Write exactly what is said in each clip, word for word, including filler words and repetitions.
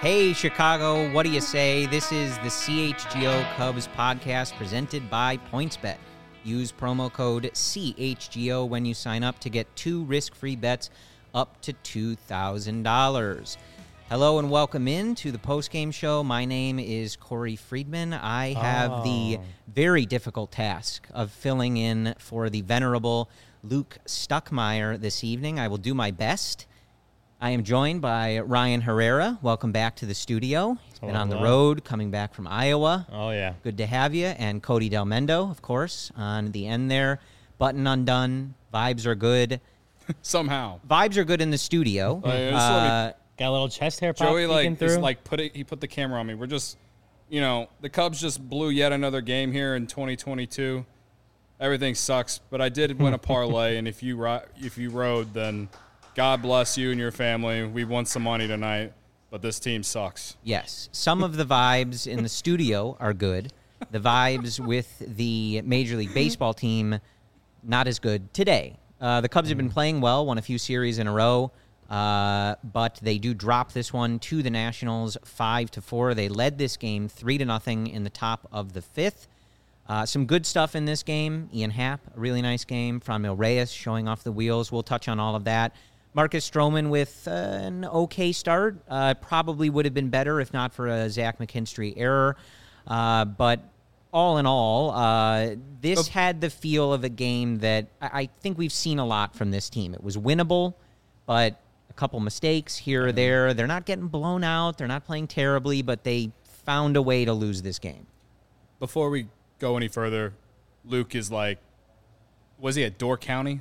Hey, Chicago, what do you say? This is the C H G O Cubs podcast presented by PointsBet. Use promo code C H G O when you sign up to get two risk-free bets up to two thousand dollars. Hello and welcome in to the postgame show. My name is Corey Friedman. I have oh. the very difficult task of filling in for the venerable Luke Stuckmeyer this evening. I will do my best. I am joined by Ryan Herrera. Welcome back to the studio. He's been oh, on the road, coming back from Iowa. Oh, yeah. Good to have you. And Cody Del Mendo, of course, on the end there. Button undone. Vibes are good. Somehow. Vibes are good in the studio. Uh, uh, got a little chest hair pop Joey, like, through. like put it, he put the camera on me. We're just, you know, the Cubs just blew yet another game here in twenty twenty-two. Everything sucks, but I did win a parlay, and if you ro- if you rode, then God bless you and your family. We won some money tonight, but this team sucks. Yes. Some of the vibes in the studio are good. The vibes with the Major League Baseball team, not as good today. Uh, the Cubs have been playing well, won a few series in a row, uh, but they do drop this one to the Nationals five to four. They led this game three to nothing in the top of the fifth. Uh, some good stuff in this game. Ian Happ, a really nice game. Franmil Reyes showing off the wheels. We'll touch on all of that. Marcus Stroman with uh, an okay start. Uh, probably would have been better if not for a Zach McKinstry error. Uh, but all in all, uh, this had the feel of a game that I-, I think we've seen a lot from this team. It was winnable, but a couple mistakes here or there. They're not getting blown out. They're not playing terribly, but they found a way to lose this game. Before we go any further, Luke is like, was he at Door County?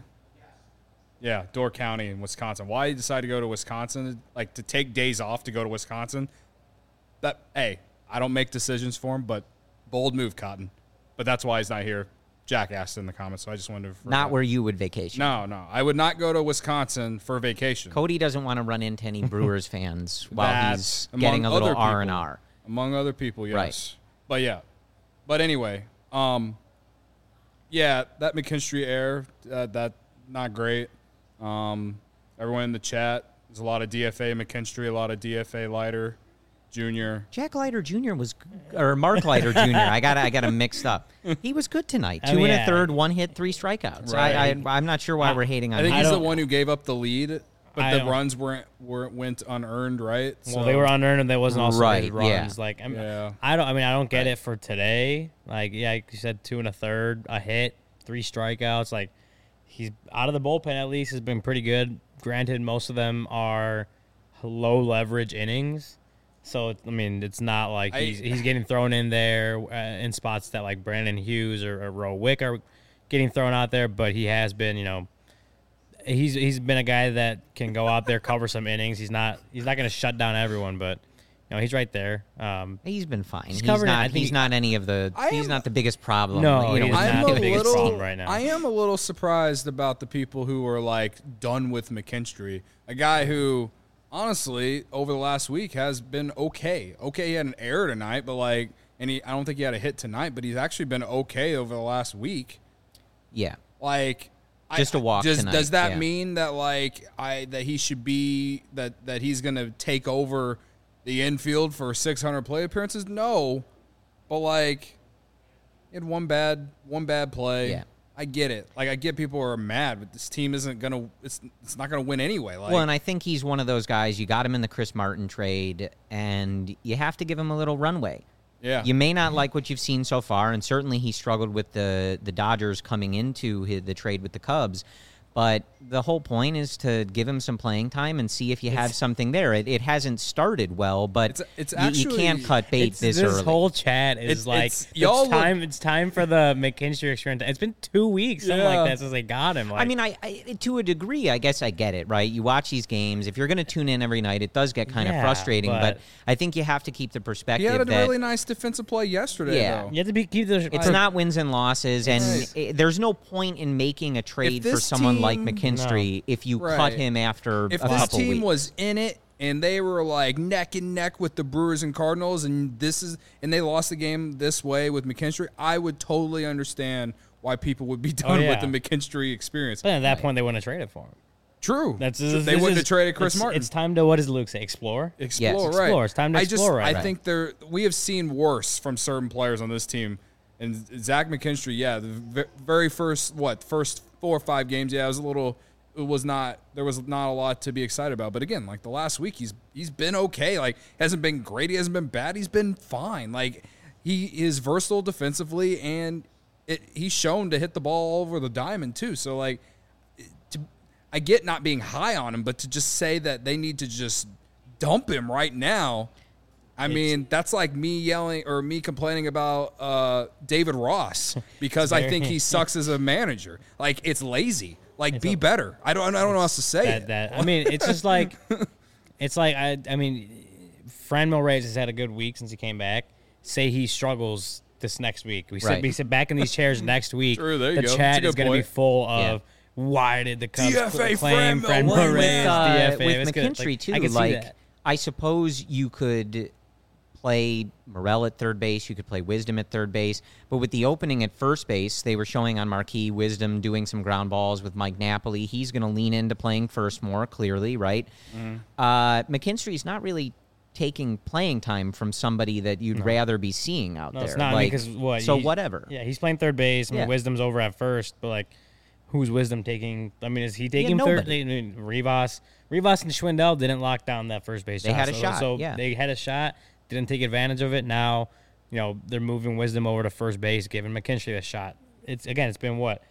Yeah, Door County in Wisconsin. Why he decided to go to Wisconsin, like to take days off to go to Wisconsin? That hey, I don't make decisions for him, but bold move, Cotton. But that's why he's not here. Jack asked in the comments, so I just wanted to. Not where you would vacation. No, no, I would not go to Wisconsin for vacation. Cody doesn't want to run into any Brewers fans while he's getting a little R and R. Among other people, yes. Right. But yeah, but anyway, um, yeah, that McKinstry error, uh, that not great. Um, everyone in the chat, there's a lot of D F A McKinstry, a lot of D F A Leiter Junior Jack Leiter Junior was, or Mark Leiter Junior I got I got him mixed up. He was good tonight. Two I mean, and a yeah. third, one hit, three strikeouts. Right. I, I I'm not sure why I, we're hating on him. I think him. he's the one who gave up the lead, but I the runs weren't weren't went unearned, right? Well, so. They were unearned, and there wasn't also right, runs. Yeah. Like I, mean, yeah. I don't. I mean, I don't get right. it for today. Like yeah, like you said, two and a third, a hit, three strikeouts. Like. He's out of the bullpen at least has been pretty good. Granted, most of them are low leverage innings, so I mean it's not like I, he's he's getting thrown in there uh, in spots that like Brandon Hughes or, or Roe Wick are getting thrown out there. But he has been, you know, he's he's been a guy that can go out there cover some innings. He's not he's not going to shut down everyone, but. No, he's right there. Um, he's been fine. He's, he's not. I think he's not any of the. I he's am, not the biggest problem. No, you know, he's I'm not a the biggest little, problem right now. I am a little surprised about the people who are like done with McKinstry, a guy who, honestly, over the last week has been okay. Okay, he had an error tonight, but like, and he, I don't think he had a hit tonight, but he's actually been okay over the last week. Yeah, like. Just I, a walk does, tonight. Does that yeah. mean that like I that he should be that that he's gonna take over the infield for six hundred play appearances? No, but like, he had one bad one bad play. Yeah. I get it. Like I get people are mad, but this team isn't gonna. It's it's not gonna win anyway. Like, well, and I think he's one of those guys. You got him in the Chris Martin trade, and you have to give him a little runway. Yeah. You may not like what you've seen so far, and certainly he struggled with the the Dodgers coming into his, the trade with the Cubs. But the whole point is to give him some playing time and see if you have something there. It, it hasn't started well, but it's, it's you, actually, you can't cut bait it's, this, this early. This whole chat is it's, like, it's, it's, y'all time, look, it's time for the McKinstry experiment. It's been two weeks, something yeah. like that, since they got him. Like, I mean, I, I to a degree, I guess I get it, right? You watch these games. If you're going to tune in every night, it does get kind yeah, of frustrating, but, but I think you have to keep the perspective he had a that really nice defensive play yesterday, Yeah. though. you have to be, keep the. it's not wins and losses, and Right. it, there's no point in making a trade for this someone like team- McKinstry if you Right. cut him after If a this couple team weeks. was in it and they were like neck and neck with the Brewers and Cardinals, and this is and they lost the game this way with McKinstry, I would totally understand why people would be done yeah. with the McKinstry experience. But at that point, they wouldn't have traded for him. True. That's True. this They wouldn't is- have traded Chris it's, Martin. It's time to, what does Luke say? Explore. Explore, Yes. right? Explore. It's time to I explore just, right I now. think there we have seen worse from certain players on this team, and Zach McKinstry. Yeah, the ve- very first what first four or five games. Yeah, it was a little. It was not. There was not a lot to be excited about. But again, like the last week, he's he's been okay. Like hasn't been great. He hasn't been bad. He's been fine. Like he is versatile defensively, and it, he's shown to hit the ball all over the diamond too. So like. To, I get not being high on him, but to just say that they need to just dump him right now, I It's- mean, that's like me yelling or me complaining about uh, David Ross because I think he sucks as a manager. Like, it's lazy. Like, be a- better. I don't I don't know how else to say that, it. that I mean, it's just like it's like I I mean, Franmil Reyes has had a good week since he came back. Say he struggles this next week. We Right. said we sit back in these chairs next week. True, there you the go. chat That's a is good going to be point. full of Yeah. why did the Cubs D F A claim Franmil Franmil Reyes. Reyes? uh, D F A. with It's good. McKinstry Like, too. I can see like that. I suppose you could play Morel at third base. You could play Wisdom at third base. But with the opening at first base, they were showing on Marquee Wisdom doing some ground balls with Mike Napoli. He's going to lean into playing first more clearly, right? Mm-hmm. Uh, McKinstry's not really taking playing time from somebody that you'd rather be seeing out No, there. it's not Like, because what? so he- whatever. Yeah, he's playing third base. I mean, Yeah. Wisdom's over at first, but like, who's Wisdom taking? I mean, is he taking third? nobody. I mean, Rivas, Rivas and Schwindel didn't lock down that first base. They shot, had a so, shot, So yeah. they had a shot, didn't take advantage of it. Now, you know, they're moving Wisdom over to first base, giving McKinstry a shot. It's again, it's been what,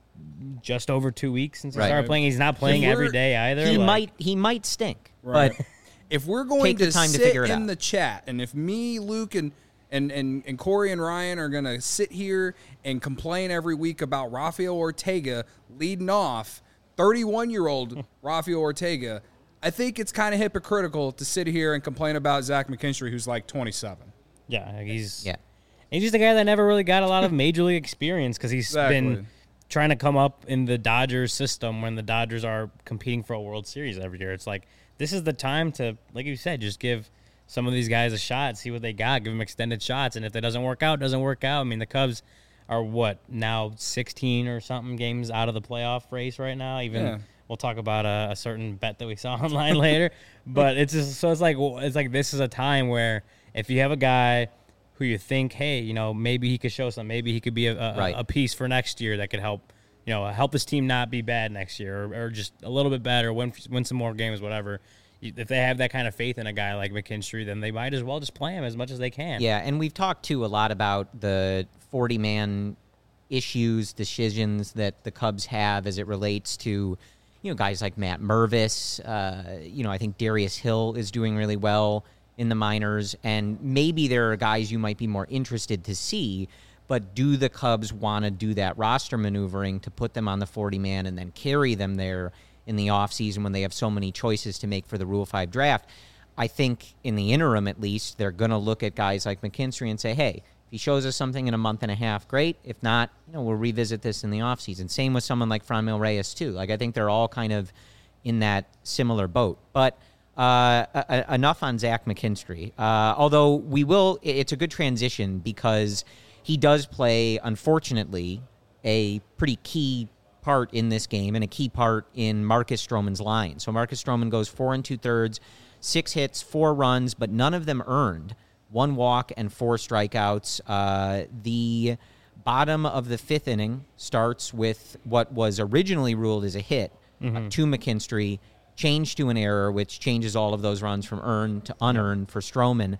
just over two weeks since he Right. started playing. He's not playing If every we're- day either. He like- might he might stink, Right. but If we're going Take the to time to sit figure it in out. the chat, and if me, Luke, and and and, and Corey and Ryan are going to sit here and complain every week about Rafael Ortega leading off, thirty-one-year-old Rafael Ortega, I think it's kind of hypocritical to sit here and complain about Zach McKinstry, who's like twenty-seven. Yeah, like he's yeah. he's just a guy that never really got a lot of major league experience because he's Exactly. been trying to come up in the Dodgers system when the Dodgers are competing for a World Series every year. It's like this is the time to, like you said, just give some of these guys a shot, see what they got, give them extended shots, and if it doesn't work out, it doesn't work out. I mean, the Cubs are what now sixteen or something games out of the playoff race right now. Even Yeah. we'll talk about a, a certain bet that we saw online later, but it's just so it's like well, it's like this is a time where if you have a guy who you think, hey, you know, maybe he could show something, maybe he could be a, a, Right. a piece for next year that could help, you know, help this team not be bad next year or, or just a little bit better, win win some more games, whatever. You- If they have that kind of faith in a guy like McKinstry, then they might as well just play him as much as they can. Yeah, and we've talked too a lot about the forty-man issues, decisions that the Cubs have as it relates to, you know, guys like Matt Mervis. Uh, you know, I think Darius Hill is doing really well in the minors, and maybe there are guys you might be more interested to see. But do the Cubs want to do that roster maneuvering to put them on the forty-man and then carry them there in the offseason when they have so many choices to make for the Rule five draft? I think in the interim, at least, they're going to look at guys like McKinstry and say, hey, if he shows us something in a month and a half, great. If not, you know, we'll revisit this in the offseason. Same with someone like Franmil Reyes, too. Like, I think they're all kind of in that similar boat. But uh, a- a- enough on Zach McKinstry. Uh, although we will, it's a good transition because he does play, unfortunately, a pretty key part in this game and a key part in Marcus Stroman's line. So Marcus Stroman goes four and two thirds, six hits, four runs, but none of them earned. One walk and four strikeouts. Uh, the bottom of the fifth inning starts with what was originally ruled as a hit uh, to McKinstry, changed to an error, which changes all of those runs from earned to unearned for Stroman.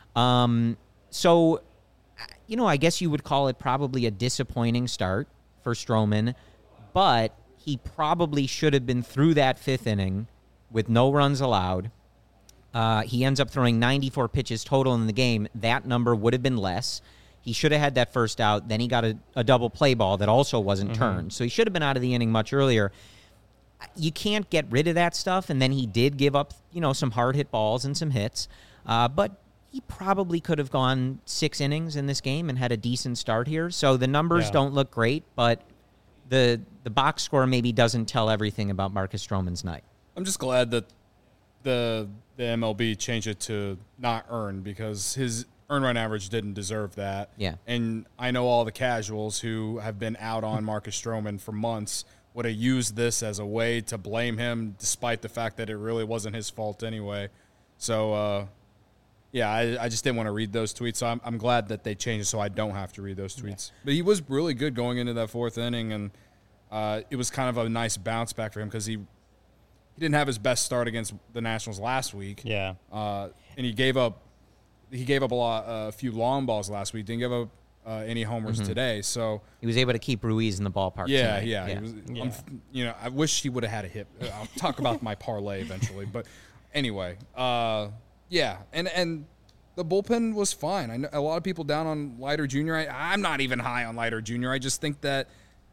Um, so, you know, I guess you would call it probably a disappointing start for Stroman, but he probably should have been through that fifth inning with no runs allowed. Uh, he ends up throwing ninety-four pitches total in the game. That number would have been less. He should have had that first out. Then he got a, a double play ball that also wasn't Mm-hmm. turned. So he should have been out of the inning much earlier. You can't get rid of that stuff. And then he did give up, you know, some hard hit balls and some hits. Uh, but he probably could have gone six innings in this game and had a decent start here. So the numbers Yeah. don't look great, but the the box score maybe doesn't tell everything about Marcus Stroman's night. I'm just glad that the the M L B changed it to not earn because his earn run average didn't deserve that. Yeah. And I know all the casuals who have been out on Marcus Stroman for months would have used this as a way to blame him, despite the fact that it really wasn't his fault anyway. So, uh, yeah, I, I just didn't want to read those tweets. So I'm, I'm glad that they changed it so I don't have to read those tweets. Yeah. But he was really good going into that fourth inning, and uh, it was kind of a nice bounce back for him because he he didn't have his best start against the Nationals last week. Yeah, uh, and he gave up he gave up a lot, uh, a few long balls last week. Didn't give up uh, any homers mm-hmm. today. So he was able to keep Ruiz in the ballpark. Yeah, tonight. yeah. yeah. He was, yeah. I'm, you know, I wish he would have had a hit. I'll talk about my parlay eventually, but anyway, uh, yeah, and and. The bullpen was fine. I know a lot of people down on Leiter Junior I, I'm not even high on Leiter Junior I just think that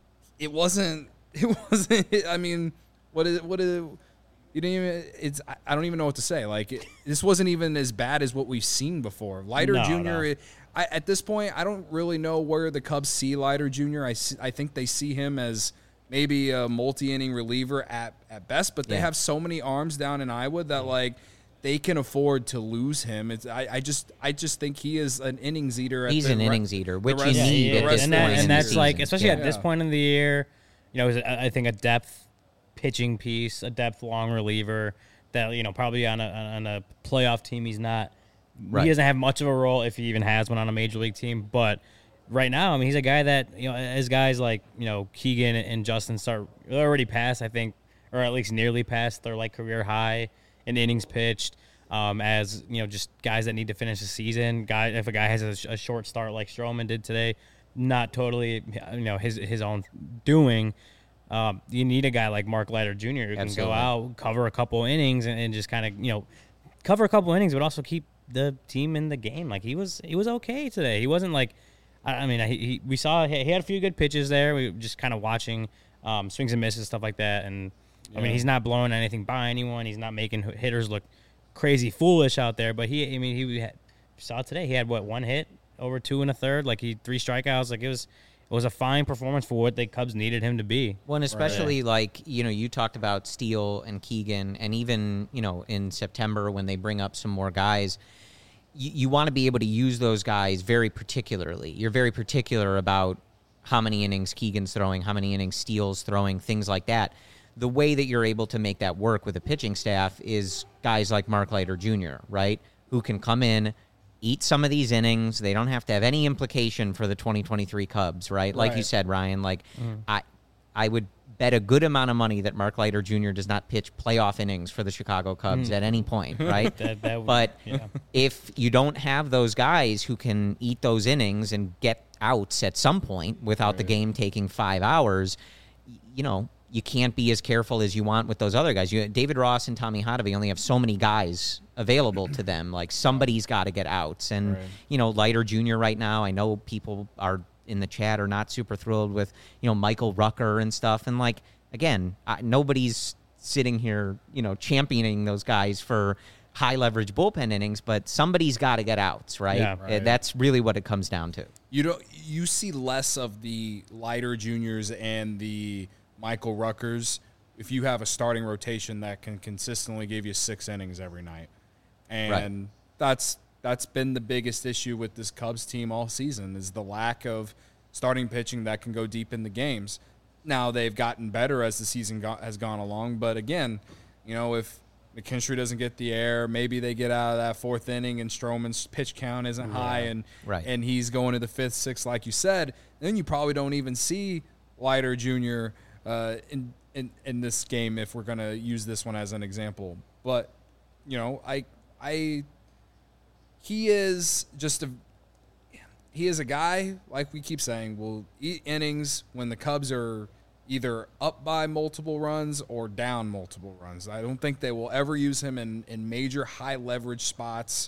it wasn't. It wasn't. I mean, what is what is? You didn't even. It's. I don't even know what to say. Like it, this wasn't even as bad as what we've seen before. Leiter no, Junior No. It, I, at this point, I don't really know where the Cubs see Leiter Junior I I think they see him as maybe a multi-inning reliever at at best, but they yeah. have so many arms down in Iowa that like. They can afford to lose him. It's, I, I just, I just think he is an innings eater. At He's the an re- innings eater, which you rest- yeah, need he at is. this and, point that, in and the that's like, season. especially yeah. at this point in the year, you know, it was, I think a depth pitching piece, a depth long reliever that you know probably on a on a playoff team he's not. Right. He doesn't have much of a role if he even has one on a major league team, but. Right now, I mean, he's a guy that, you know, as guys like, you know, Keegan and Justin start already past, I think, or at least nearly past their, like, career high in innings pitched, um, as, you know, just guys that need to finish the season. Guy, if a guy has a, a short start like Stroman did today, not totally, you know, his his own doing, um, you need a guy like Mark Leiter Junior who Absolutely. can go out, cover a couple innings, and, and just kind of, you know, cover a couple innings, but also keep the team in the game. Like, he was, he was okay today. He wasn't, like, I mean, he, he we saw he had a few good pitches there. We were just kind of watching um, swings and misses, stuff like that. And yeah. I mean, he's not blowing anything by anyone. He's not making hitters look crazy foolish out there. But he, I mean, he had, saw today he had what one hit over two and a third, like he three strikeouts. Like it was, it was a fine performance for what the Cubs needed him to be. Well, and especially right. like you know, you talked about Steele and Keegan, and even you know in September when they bring up some more guys. You, you want to be able to use those guys very particularly. You're very particular about how many innings Keegan's throwing, how many innings Steele's throwing, things like that. The way that you're able to make that work with a pitching staff is guys like Mark Leiter Junior, right, who can come in, eat some of these innings. They don't have to have any implication for the twenty twenty-three Cubs, right? Like right. you said, Ryan, like mm. I I would bet a good amount of money that Mark Leiter Junior does not pitch playoff innings for the Chicago Cubs mm. at any point, right? that, that would, but yeah. if you don't have those guys who can eat those innings and get outs at some point without right. the game taking five hours, you know, you can't be as careful as you want with those other guys. You, David Ross and Tommy Hotovy only have so many guys available to them. Like, somebody's got to get outs. And, right. you know, Leiter Junior right now, I know people are in the chat are not super thrilled with, you know, Michael Rucker and stuff. And, like, again, I, nobody's sitting here, you know, championing those guys for high leverage bullpen innings, but somebody's got to get outs, right? Yeah, right? That's really what it comes down to. You don't. You see less of the Leiter Juniors and the Michael Ruckers if you have a starting rotation that can consistently give you six innings every night, and right. that's that's been the biggest issue with this Cubs team all season is the lack of starting pitching that can go deep in the games. Now they've gotten better as the season go- has gone along, but again, you know, if McKinstry doesn't get the air, maybe they get out of that fourth inning and Stroman's pitch count isn't yeah. high and right. and he's going to the fifth, sixth, like you said, then you probably don't even see Leiter Junior uh, in, in in this game if we're going to use this one as an example. But, you know, I I he is just a he is a guy, like we keep saying, will eat innings when the Cubs are either up by multiple runs or down multiple runs. I don't think they will ever use him in, in major high leverage spots.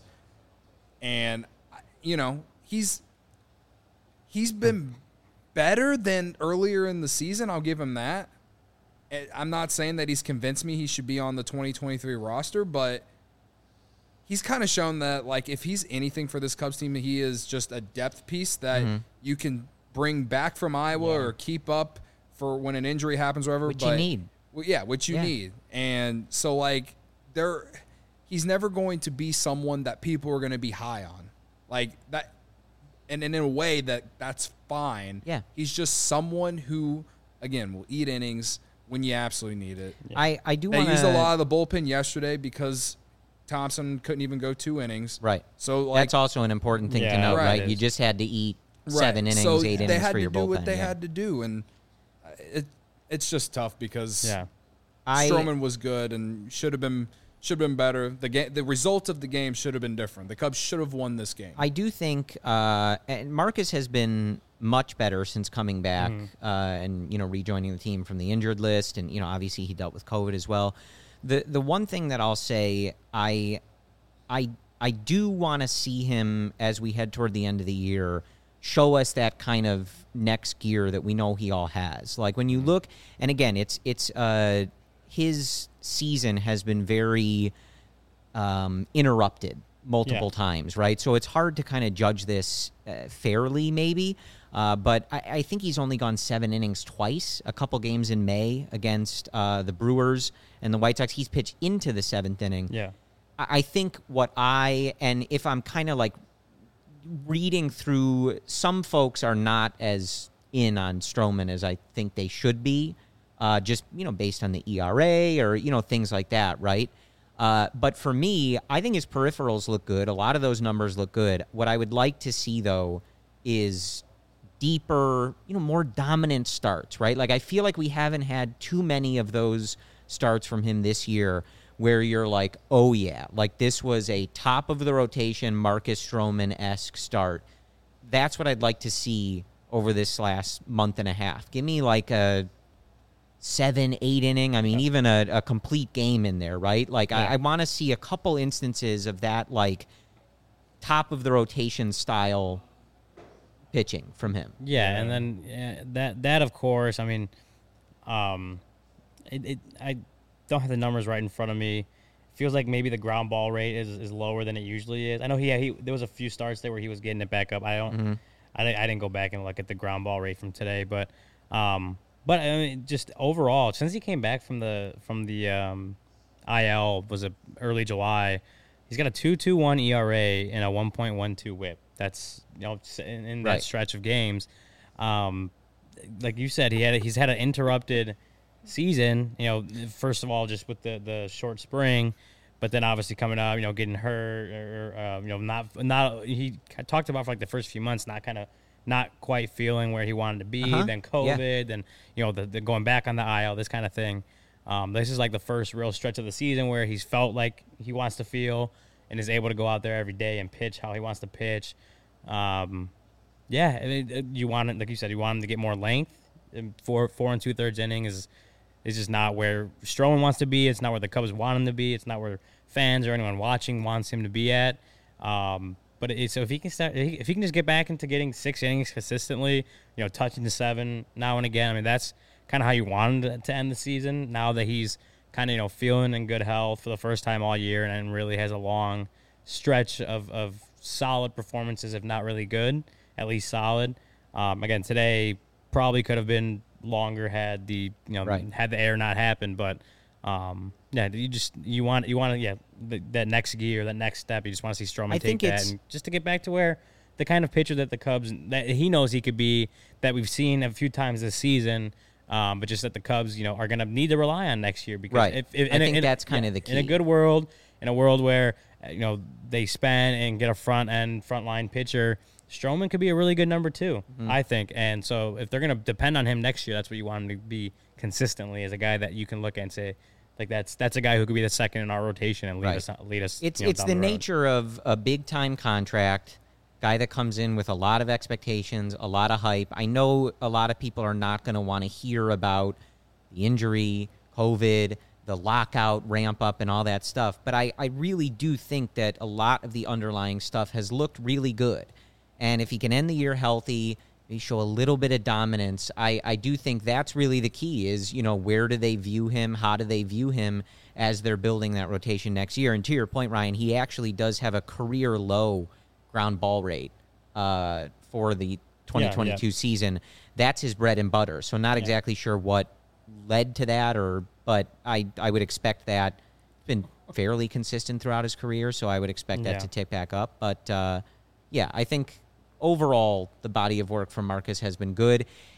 And, you know, he's he's been better than earlier in the season. I'll give him that. I'm not saying that he's convinced me he should be on the twenty twenty-three roster, but he's kind of shown that, like, if he's anything for this Cubs team, he is just a depth piece that mm-hmm. you can bring back from Iowa yeah. or keep up for when an injury happens or whatever. Which but, you need. Well, yeah, which you yeah. need. And so, like, there, he's never going to be someone that people are going to be high on. Like, that, and, and in a way that that's fine. Yeah. He's just someone who, again, will eat innings when you absolutely need it. Yeah. I, I do They want used a lot of the bullpen yesterday because Thompson couldn't even go two innings. Right. So like, That's also an important thing Yeah, to note, right. right? it You is. just had to eat right. seven innings, so eight they innings had for to your do bullpen. what they yeah. had to do, and it it's just tough because Yeah. I, Stroman was good and should have been should have been better. The game, the result of the game should have been different. The Cubs should have won this game. I do think, uh, and Marcus has been much better since coming back Mm-hmm. uh, and you know rejoining the team from the injured list, and you know obviously he dealt with COVID as well. The the one thing that I'll say, I I I do want to see him as we head toward the end of the year show us that kind of next gear that we know he all has. Like when you look, and again, it's it's uh, his season has been very um, interrupted multiple Yeah. times, right? So it's hard to kind of judge this uh, fairly, maybe. Uh, but I, I think he's only gone seven innings twice, a couple games in May against uh, the Brewers and the White Sox. He's pitched into the seventh inning. Yeah. I I think what I, and if I'm kind of like reading through, some folks are not as in on Stroman as I think they should be, uh, just, you know, based on the E R A or, you know, things like that, right? Uh, but for me, I think his peripherals look good. A lot of those numbers look good. What I would like to see, though, is deeper, you know, more dominant starts, right? Like, I feel like we haven't had too many of those starts from him this year where you're like, oh, yeah, like this was a top of the rotation Marcus Stroman-esque start. That's what I'd like to see over this last month and a half. Give me like a seven, eight inning, I mean, even a, a complete game in there, right? Like, Yeah. I, I want to see a couple instances of that, like, top of the rotation style pitching from him. Yeah, and then yeah, that that of course, I mean, um, it, it I don't have the numbers right in front of me. Feels like maybe the ground ball rate is, is lower than it usually is. I know he, he there was a few starts there where he was getting it back up. I don't, Mm-hmm. I, di- I didn't go back and look at the ground ball rate from today, but um, but I mean, just overall, since he came back from the from the um, I L was it early July, he's got a two point two one E R A and a one point one two WHIP. That's you know in, in that Right. stretch of games. Um, like you said, he had a, he's had an interrupted season. You know, first of all, just with the, the short spring, but then obviously coming up, you know, getting hurt or uh, you know not not he talked about for like the first few months, not kind of not quite feeling where he wanted to be. Uh-huh. Then Yeah. COVID, then you know the, the going back on the I L, this kind of thing. Um, this is like the first real stretch of the season where he's felt like he wants to feel and is able to go out there every day and pitch how he wants to pitch. Um, yeah, I mean, it- you want it, like you said, you want him to get more length. And four four and two thirds inning is is just not where Stroman wants to be. It's not where the Cubs want him to be. It's not where fans or anyone watching wants him to be at. Um, but it, so if he can start, if he, if he can just get back into getting six innings consistently, you know, touching the seven now and again. I mean, that's kind of how you want him to, to end the season. Now that he's kind of you know feeling in good health for the first time all year and really has a long stretch of of solid performances, if not really good, at least solid. Um, again, today probably could have been longer had the you know Right. had the error not happened, but um, yeah, you just you want you want to yeah the, that next gear, that next step. You just want to see Stroman I take think that it's- and just to get back to where the kind of pitcher that the Cubs that he knows he could be, that we've seen a few times this season. Um, but just that the Cubs, you know, are going to need to rely on next year because Right. if, if I in a- think in a- that's kinda yeah, the in a key. good world, in a world where uh, you know they spend and get a front end front line pitcher, Stroman could be a really good number two, Mm-hmm. I think. And so if they're going to depend on him next year, that's what you want him to be consistently, as a guy that you can look at and say, like that's that's a guy who could be the second in our rotation and lead Right. us lead us. It's you know, it's down the, road. nature of a big time contract, guy that comes in with a lot of expectations, a lot of hype. I know a lot of people are not going to want to hear about the injury, COVID, the lockout, ramp up, and all that stuff. But I, I really do think that a lot of the underlying stuff has looked really good. And if he can end the year healthy, maybe show a little bit of dominance, I, I do think that's really the key is, you know, where do they view him? How do they view him as they're building that rotation next year? And to your point, Ryan, he actually does have a career low ground ball rate uh, for the twenty twenty-two Yeah, yeah. season. That's his bread and butter. So not Yeah. exactly sure what led to that, or but I, I would expect that. Been fairly consistent throughout his career, so I would expect that Yeah. to tick back up. But uh, yeah, I think overall the body of work from Marcus has been good.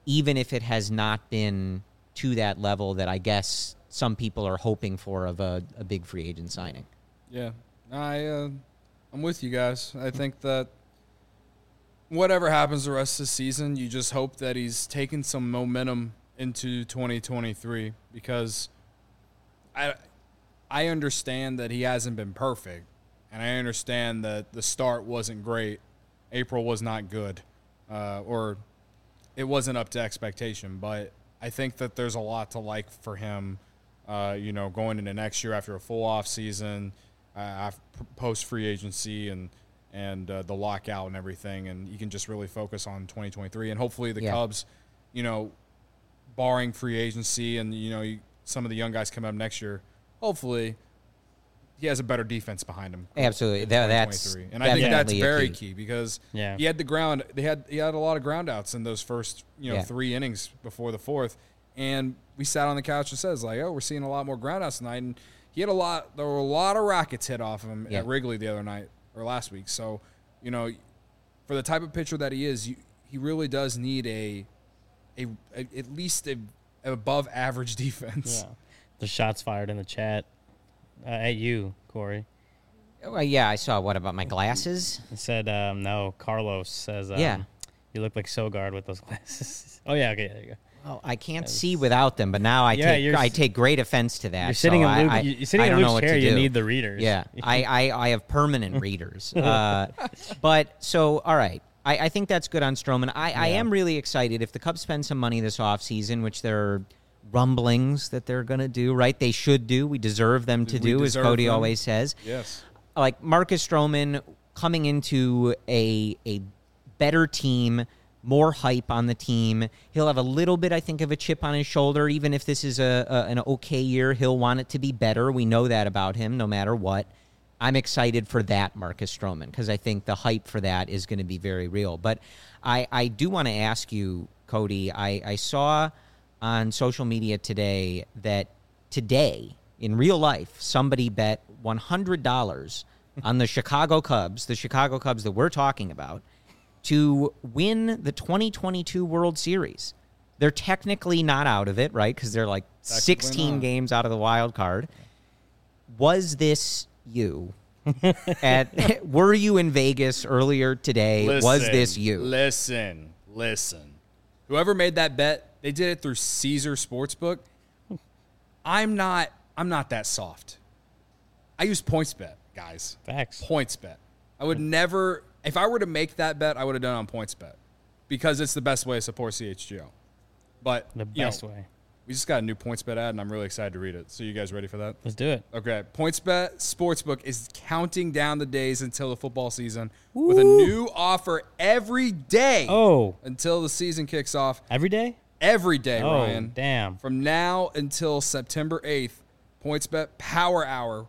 even if it has not been to that level that I guess some people are hoping for of a, a big free agent signing. Yeah, I, uh, I'm with you guys. I think that whatever happens the rest of the season, you just hope that he's taken some momentum into twenty twenty-three because I, I understand that he hasn't been perfect, and I understand that the start wasn't great. April was not good, uh, or it wasn't up to expectation, but I think that there's a lot to like for him, uh, you know, going into next year after a full off season, uh, post free agency and and uh, the lockout and everything, and you can just really focus on twenty twenty-three. And hopefully the yeah. Cubs, you know, barring free agency and, you know, you, some of the young guys come up next year, hopefully he has a better defense behind him. Absolutely. That, that's and I think that's very key. key because yeah. he had the ground they had he had a lot of ground outs in those first, you know, yeah. three innings before the fourth. And we sat on the couch and says like, oh, we're seeing a lot more ground outs tonight. And he had a lot there were a lot of rockets hit off him yeah. at Wrigley the other night or last week. So, you know, for the type of pitcher that he is, you, he really does need a a, a at least a, a above average defense. Yeah. The shots fired in the chat. Uh, at you, Corey. Well, yeah, I saw. What about my glasses? It said, um, no, Carlos says, um, yeah. you look like Sogard with those glasses. Oh, yeah, okay, there you go. Well, I can't see without them, but now I yeah, take I take great offense to that. You're sitting so in Luke, I, I, you're sitting I in don't Luke's know what chair, to do. You need the readers. Yeah, I, I, I have permanent readers. Uh, but, so, all right. I, I think that's good on Stroman. I, yeah. I am really excited. If the Cubs spend some money this offseason, which they're – rumblings that they're going to do, right? They should do. We deserve them to we do, as Cody them. always says. Yes. Like Marcus Stroman coming into a a better team, more hype on the team. He'll have a little bit, I think, of a chip on his shoulder. Even if this is a, a an okay year, he'll want it to be better. We know that about him, no matter what. I'm excited for that, Marcus Stroman, because I think the hype for that is going to be very real. But I, I do want to ask you, Cody, I, I saw on social media today that today, in real life, somebody bet one hundred dollars on the Chicago Cubs, the Chicago Cubs that we're talking about, to win the twenty twenty-two World Series. They're technically not out of it, right? Because they're like sixteen games out of the wild card. Was this you? At were you in Vegas earlier today? Listen, was this you? Listen, listen. Whoever made that bet, they did it through Caesar Sportsbook. I'm not I'm not that soft. I use PointsBet, guys. Facts. PointsBet. I would never if I were to make that bet, I would have done it on PointsBet because it's the best way to support C H G O. But the best you know, way. We just got a new PointsBet ad, and I'm really excited to read it. So you guys ready for that? Let's do it. Okay. PointsBet Sportsbook is counting down the days until the football season Ooh. with a new offer every day oh. until the season kicks off. Every day? Every day, oh, Ryan. damn. From now until September eighth, PointsBet Power Hour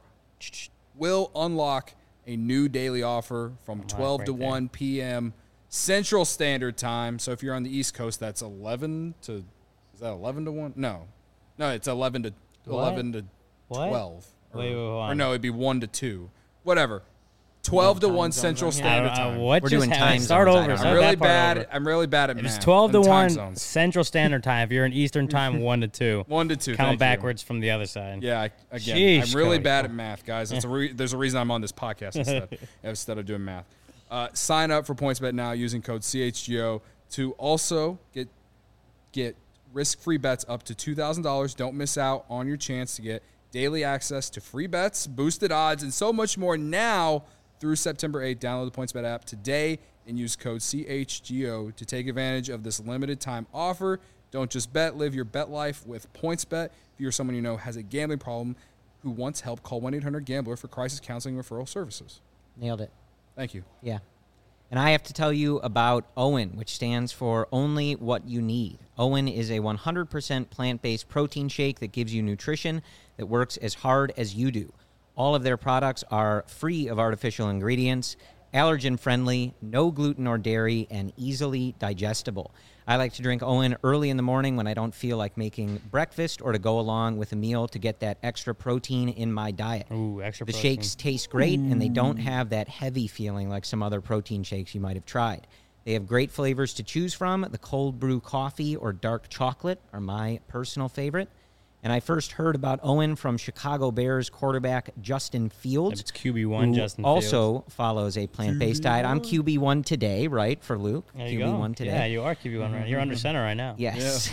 will unlock a new daily offer from twelve right to there. one p.m. Central Standard Time. So if you're on the East Coast, that's eleven to Is that eleven to one? No. No, it's eleven to eleven to what? twelve. Or, wait, wait, wait, or no, it'd be one to two. Whatever. twelve to one Central Standard uh, Time. What We're just doing happened? time Start zones. over. I'm Start I'm really that part bad. over. I'm really bad at If math. it's twelve to and time one zones. Central Standard Time. If you're in Eastern Time, one to two. One to two. Count thank backwards you. from the other side. Yeah, I, again, Sheesh, I'm really Cody. bad at math, guys. It's a re- there's a reason I'm on this podcast instead, instead of doing math. Uh, sign up for PointsBet now using code C H G O to also get get risk-free bets up to two thousand dollars. Don't miss out on your chance to get daily access to free bets, boosted odds, and so much more now through September eighth. Download the PointsBet app today and use code C H G O to take advantage of this limited time offer. Don't just bet, live your bet life with PointsBet. If you're someone you know has a gambling problem who wants help, call one eight hundred gambler for crisis counseling referral services. Nailed it. Thank you. Yeah. And I have to tell you about OWYN, which stands for Only What You Need. OWYN is a one hundred percent plant-based protein shake that gives you nutrition that works as hard as you do. All of their products are free of artificial ingredients, allergen-friendly, no gluten or dairy, and easily digestible. I like to drink OWYN early in the morning when I don't feel like making breakfast or to go along with a meal to get that extra protein in my diet. Ooh, extra the protein. shakes taste great, and they don't have that heavy feeling like some other protein shakes you might have tried. They have great flavors to choose from. The cold brew coffee or dark chocolate are my personal favorite. And I first heard about Owen from Chicago Bears quarterback Justin Fields. It's Q B one, who Justin also Fields. follows a plant-based diet. I'm Q B one today, right, for Luke? There you Q B one go. today. Yeah, you are Q B one right. You're under center right now. Yes.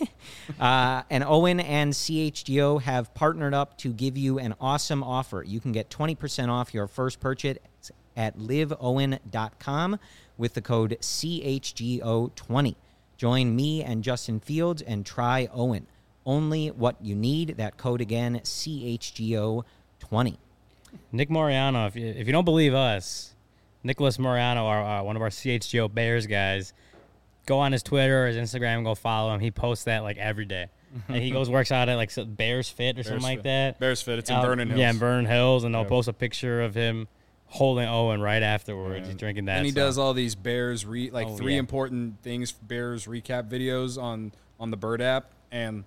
uh, and Owen and C H G O have partnered up to give you an awesome offer. You can get twenty percent off your first purchase at live owen dot com with the code C H G O twenty. Join me and Justin Fields and try Owen. Only what you need. That code again, C H G O twenty. Nick Moriano, if you, if you don't believe us, Nicholas Moriano, our, uh, one of our C H G O Bears guys, go on his Twitter or his Instagram, go follow him. He posts that like every day. And he goes, works out at like some Bears Fit or Bears something like Fit. that. Bears Fit. It's in Out- Vernon Hills. Yeah, in Vernon Hills. And they'll Yeah. post a picture of him holding Owen right afterwards. Yeah. He's drinking that. And he so. does all these Bears re like Oh, three yeah. important things Bears recap videos on on the Bird app, and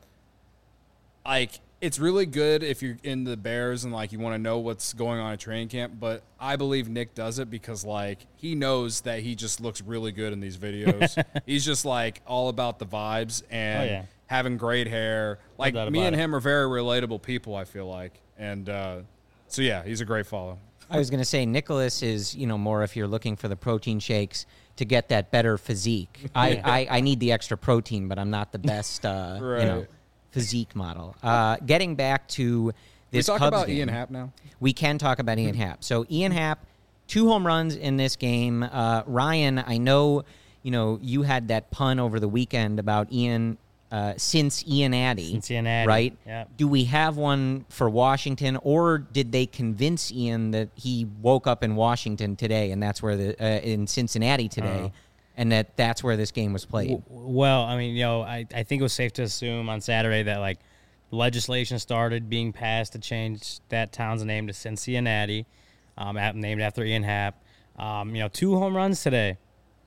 like it's really good if you're in the Bears and like you want to know what's going on at training camp. But I believe Nick does it because like he knows that he just looks really good in these videos. He's just like all about the vibes and Oh, yeah. having great hair. Like doubt me about and it. him are very relatable people. I feel like, and uh, so yeah, he's a great follow. I was going to say Nicholas is, you know, more if you're looking for the protein shakes to get that better physique. I, I, I need the extra protein, but I'm not the best, uh, Right. you know, physique model. Uh, getting back to We this talk Cubs about game, Ian Happ now. we can talk about Ian Happ. So Ian Happ, two home runs in this game. Uh, Ryan, I know, you know, you had that pun over the weekend about Ian uh, since Ian Addy. Cincinnati. Right? Yep. Do we have one for Washington, or did they convince Ian that he woke up in Washington today, and that's where the uh, in Cincinnati today, Uh-huh. and that that's where this game was played? W- Well, I mean, you know, I, I think it was safe to assume on Saturday that, like, legislation started being passed to change that town's name to Cincinnati, um, at, named after Ian Happ. Um, you know, two home runs today.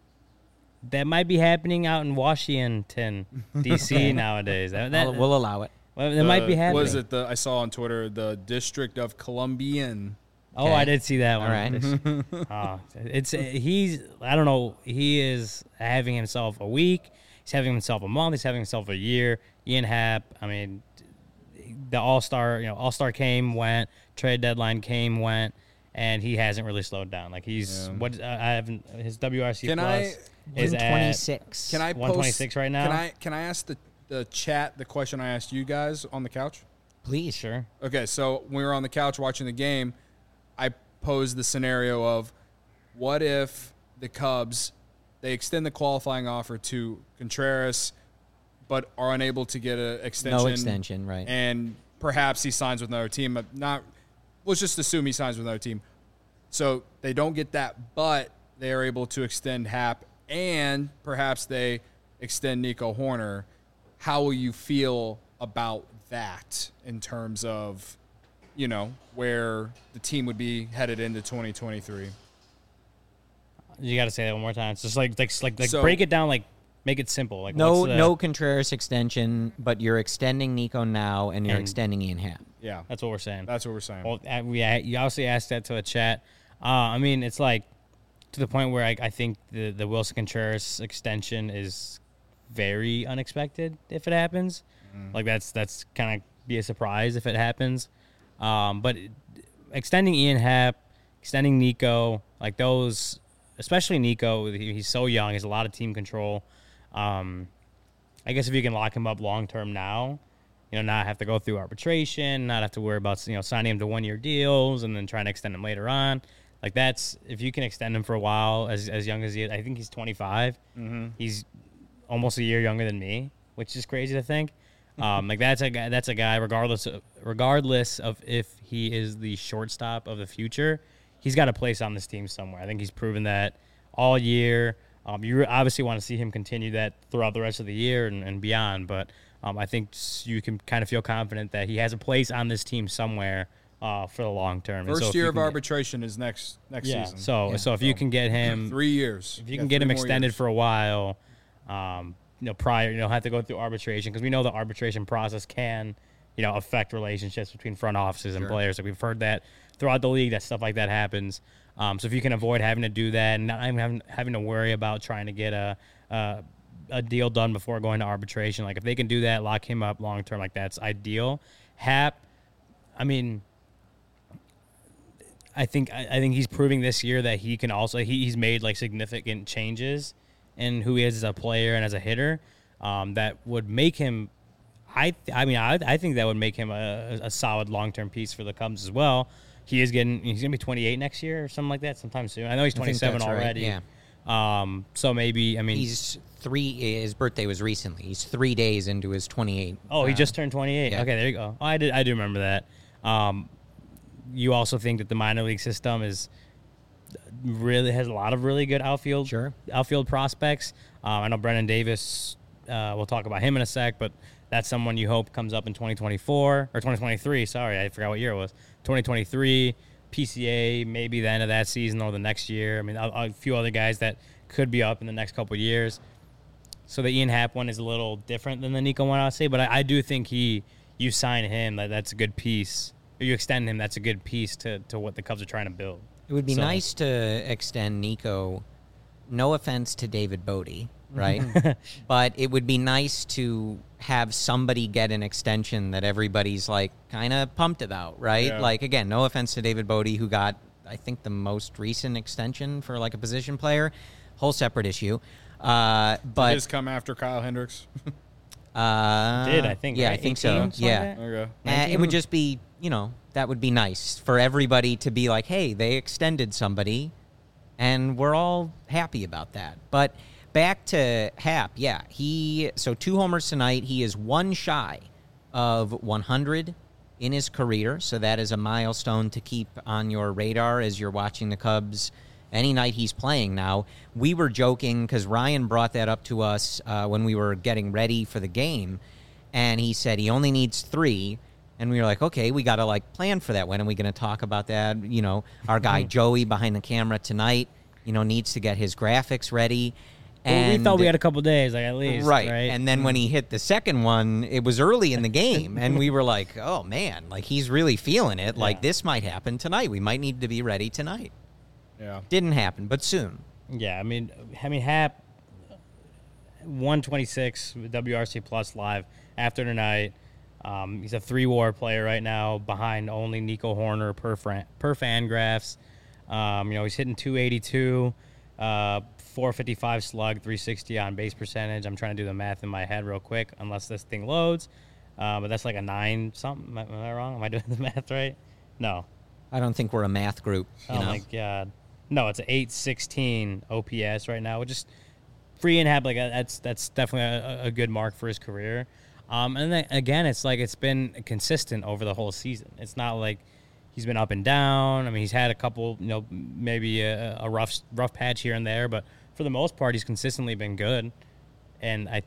That might be happening out in Washington, D C nowadays. That, that, We'll, we'll allow it. well, that might be Uh, happening. Was it the I saw on Twitter the District of Columbian? Oh, Okay. I did see that All one. right. Oh, it's he's I don't know. He is having himself a week. He's having himself a month. He's having himself a year. Ian Happ. I mean, the All Star. You know, All Star came, went. Trade deadline came, went, and he hasn't really slowed down. Like he's Yeah. what uh, I haven't his W R C Can I- plus is one at twenty-six. Can I one twenty-six post, right now. Can I can I ask the the chat the question I asked you guys on the couch? Please. Sure. Okay, so when we were on the couch watching the game, I posed the scenario of what if the Cubs they extend the qualifying offer to Contreras, but are unable to get an extension. No extension, right? And perhaps he signs with another team. But Not let's just assume he signs with another team. So they don't get that, but they are able to extend Happ, and perhaps they extend Nico Horner. How will you feel about that in terms of, you know, where the team would be headed into twenty twenty-three? You got to say that one more time. It's just like like like, like So- break it down. Like make it simple. Like no, what's the- no Contreras extension, but you're extending Nico now, and you're And- extending Ian Happ. Yeah, That's what we're saying. that's what we're saying. Well, uh, we uh, you obviously asked that to the chat. Uh, I mean, it's like to the point where I, I think the the Wilson Contreras extension is very unexpected if it happens. Like that's that's kind of be a surprise if it happens. Um, but it- extending Ian Happ, extending Nico, like those, especially Nico, he, he's so young. He has a lot of team control. Um, I guess if you can lock him up long term now, you know, not have to go through arbitration, not have to worry about, you know, signing him to one year deals and then trying to extend him later on. Like that's if you can extend him for a while, as as young as he is. I think he's twenty-five. Mm-hmm. He's almost a year younger than me, which is crazy to think. Um, like that's a guy. That's a guy. Regardless, of, regardless of if he is the shortstop of the future, he's got a place on this team somewhere. I think he's proven that all year. Um, you obviously want to see him continue that throughout the rest of the year and, and beyond. But um, I think s- you can kind of feel confident that he has a place on this team somewhere uh, for the long term. And so First if you year of can get- arbitration is next next yeah. season. So Yeah. so if you can get him three years. if you got can get three him more extended years. for a while, um, you know, prior, you know, have to go through arbitration because we know the arbitration process can you know, affect relationships between front offices and Sure. players. Like we've heard that throughout the league, that stuff like that happens. Um, so if you can avoid having to do that and not even having, having to worry about trying to get a, a a deal done before going to arbitration, like if they can do that, lock him up long term, like that's ideal. Hap, I mean, I think I, I think he's proving this year that he can also he, he's made like significant changes in who he is as a player and as a hitter um, that would make him. I I mean I I think that would make him a, a solid long term piece for the Cubs as well. He is getting he's gonna be twenty-eight next year or something like that sometime soon. I know he's I think twenty-seven that's right, already. yeah. Um. So maybe I mean He's three. His birthday was recently. He's three days into his twenty-eight. Oh, he uh, just turned twenty-eight. yeah. Okay, there you go. Oh, I did. I do remember that. Um, you also think that the minor league system is really has a lot of really good outfield Sure. outfield prospects. Um, I know Brennan Davis. Uh, we'll talk about him in a sec, but that's someone you hope comes up in twenty twenty-four or twenty twenty-three. Sorry, I forgot what year it was. twenty twenty-three, P C A, maybe the end of that season or the next year. I mean, a, a few other guys that could be up in the next couple of years. So the Ian Happ one is a little different than the Nico one, I'll say, but I, I do think he, you sign him, that that's a good piece. Or you extend him, that's a good piece to, to what the Cubs are trying to build. It would be So- nice to extend Nico. No offense to David Bodie, right? But it would be nice to have somebody get an extension that everybody's like kind of pumped about, right? Yeah. Like again, no offense to David Bodie, who got I think the most recent extension for like a position player, whole separate issue. Uh, Did but his come after Kyle Hendricks? uh, Did, I think, yeah, right? I think eighteen, so. something Yeah. like that? Okay. Uh, it would just be, you know, that would be nice for everybody to be like, hey, they extended somebody, and we're all happy about that. But back to Hap, yeah, he, so two homers tonight. He is one shy of one hundred in his career, so that is a milestone to keep on your radar as you're watching the Cubs any night he's playing now. We were joking because Ryan brought that up to us uh, when we were getting ready for the game, and he said he only needs three. And we were like, okay, we got to like plan for that. When are we going to talk about that? You know, our guy Joey behind the camera tonight, you know, needs to get his graphics ready. Well, And we thought we had a couple days, like at least. right. Right. And then when he hit the second one, it was early in the game, and we were like, oh man, like he's really feeling it. Like Yeah. this might happen tonight. We might need to be ready tonight. Yeah. Didn't happen, but soon. Yeah, I mean, I mean, Hap, one twenty-six W R C Plus live after tonight. Um, he's a three-war player right now, behind only Nico Horner per fran- per Fangraphs. Um, you know, he's hitting two eighty-two, uh, four fifty-five slug, three sixty on base percentage. I'm trying to do the math in my head real quick, unless this thing loads. Uh, but that's like a nine something. Am I, am I wrong? Am I doing the math right? No. I don't think we're a math group. You Oh know? my god. No, it's an eight sixteen O P S right now, which is free and have like a, that's that's definitely a, a good mark for his career. Um, and then again, it's like it's been consistent over the whole season. It's not like he's been up and down. I mean, he's had a couple, you know, maybe a, a rough rough patch here and there, but for the most part, he's consistently been good. And I,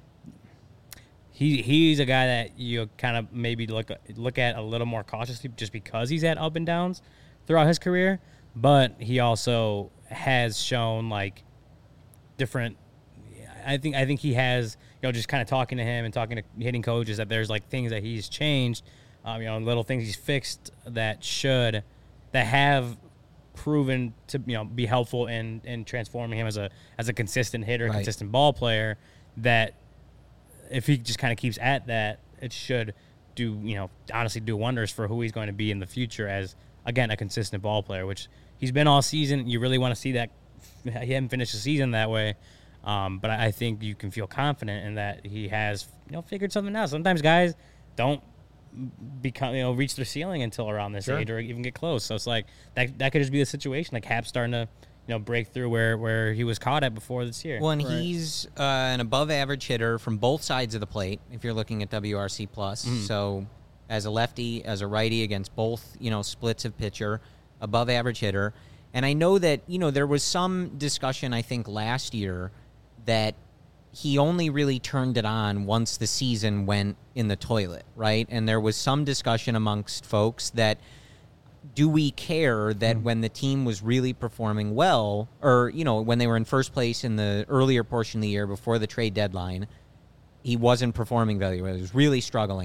he he's a guy that you kind of maybe look look at a little more cautiously just because he's had up and downs throughout his career. But he also has shown like different. I think I think he has, you know, just kind of talking to him and talking to hitting coaches, that there's like things that he's changed, um, you know, little things he's fixed that should, that have proven to, you know, be helpful in, in transforming him as a as a consistent hitter, Right. consistent ball player. That if he just kind of keeps at that, it should do, you know, honestly do wonders for who he's going to be in the future as, again, a consistent ball player, which he's been all season. You really want to see that. He hadn't finished the season that way. Um, but I I think you can feel confident in that he has, you know, figured something out. Sometimes guys don't become, you know, reach their ceiling until around this Sure. age or even get close. So it's like that that could just be the situation. Like Hap's starting to, you know, break through where, where he was caught at before this year. Well, and Right. he's uh, an above-average hitter from both sides of the plate. If you're looking at W R C plus, so as a lefty, as a righty, against both, you know, splits of pitcher, above-average hitter. And I know that, you know, there was some discussion, I think, last year that he only really turned it on once the season went in the toilet, right? And there was some discussion amongst folks that, do we care that when the team was really performing well, or, you know, when they were in first place in the earlier portion of the year before the trade deadline, he wasn't performing very well. He was really struggling.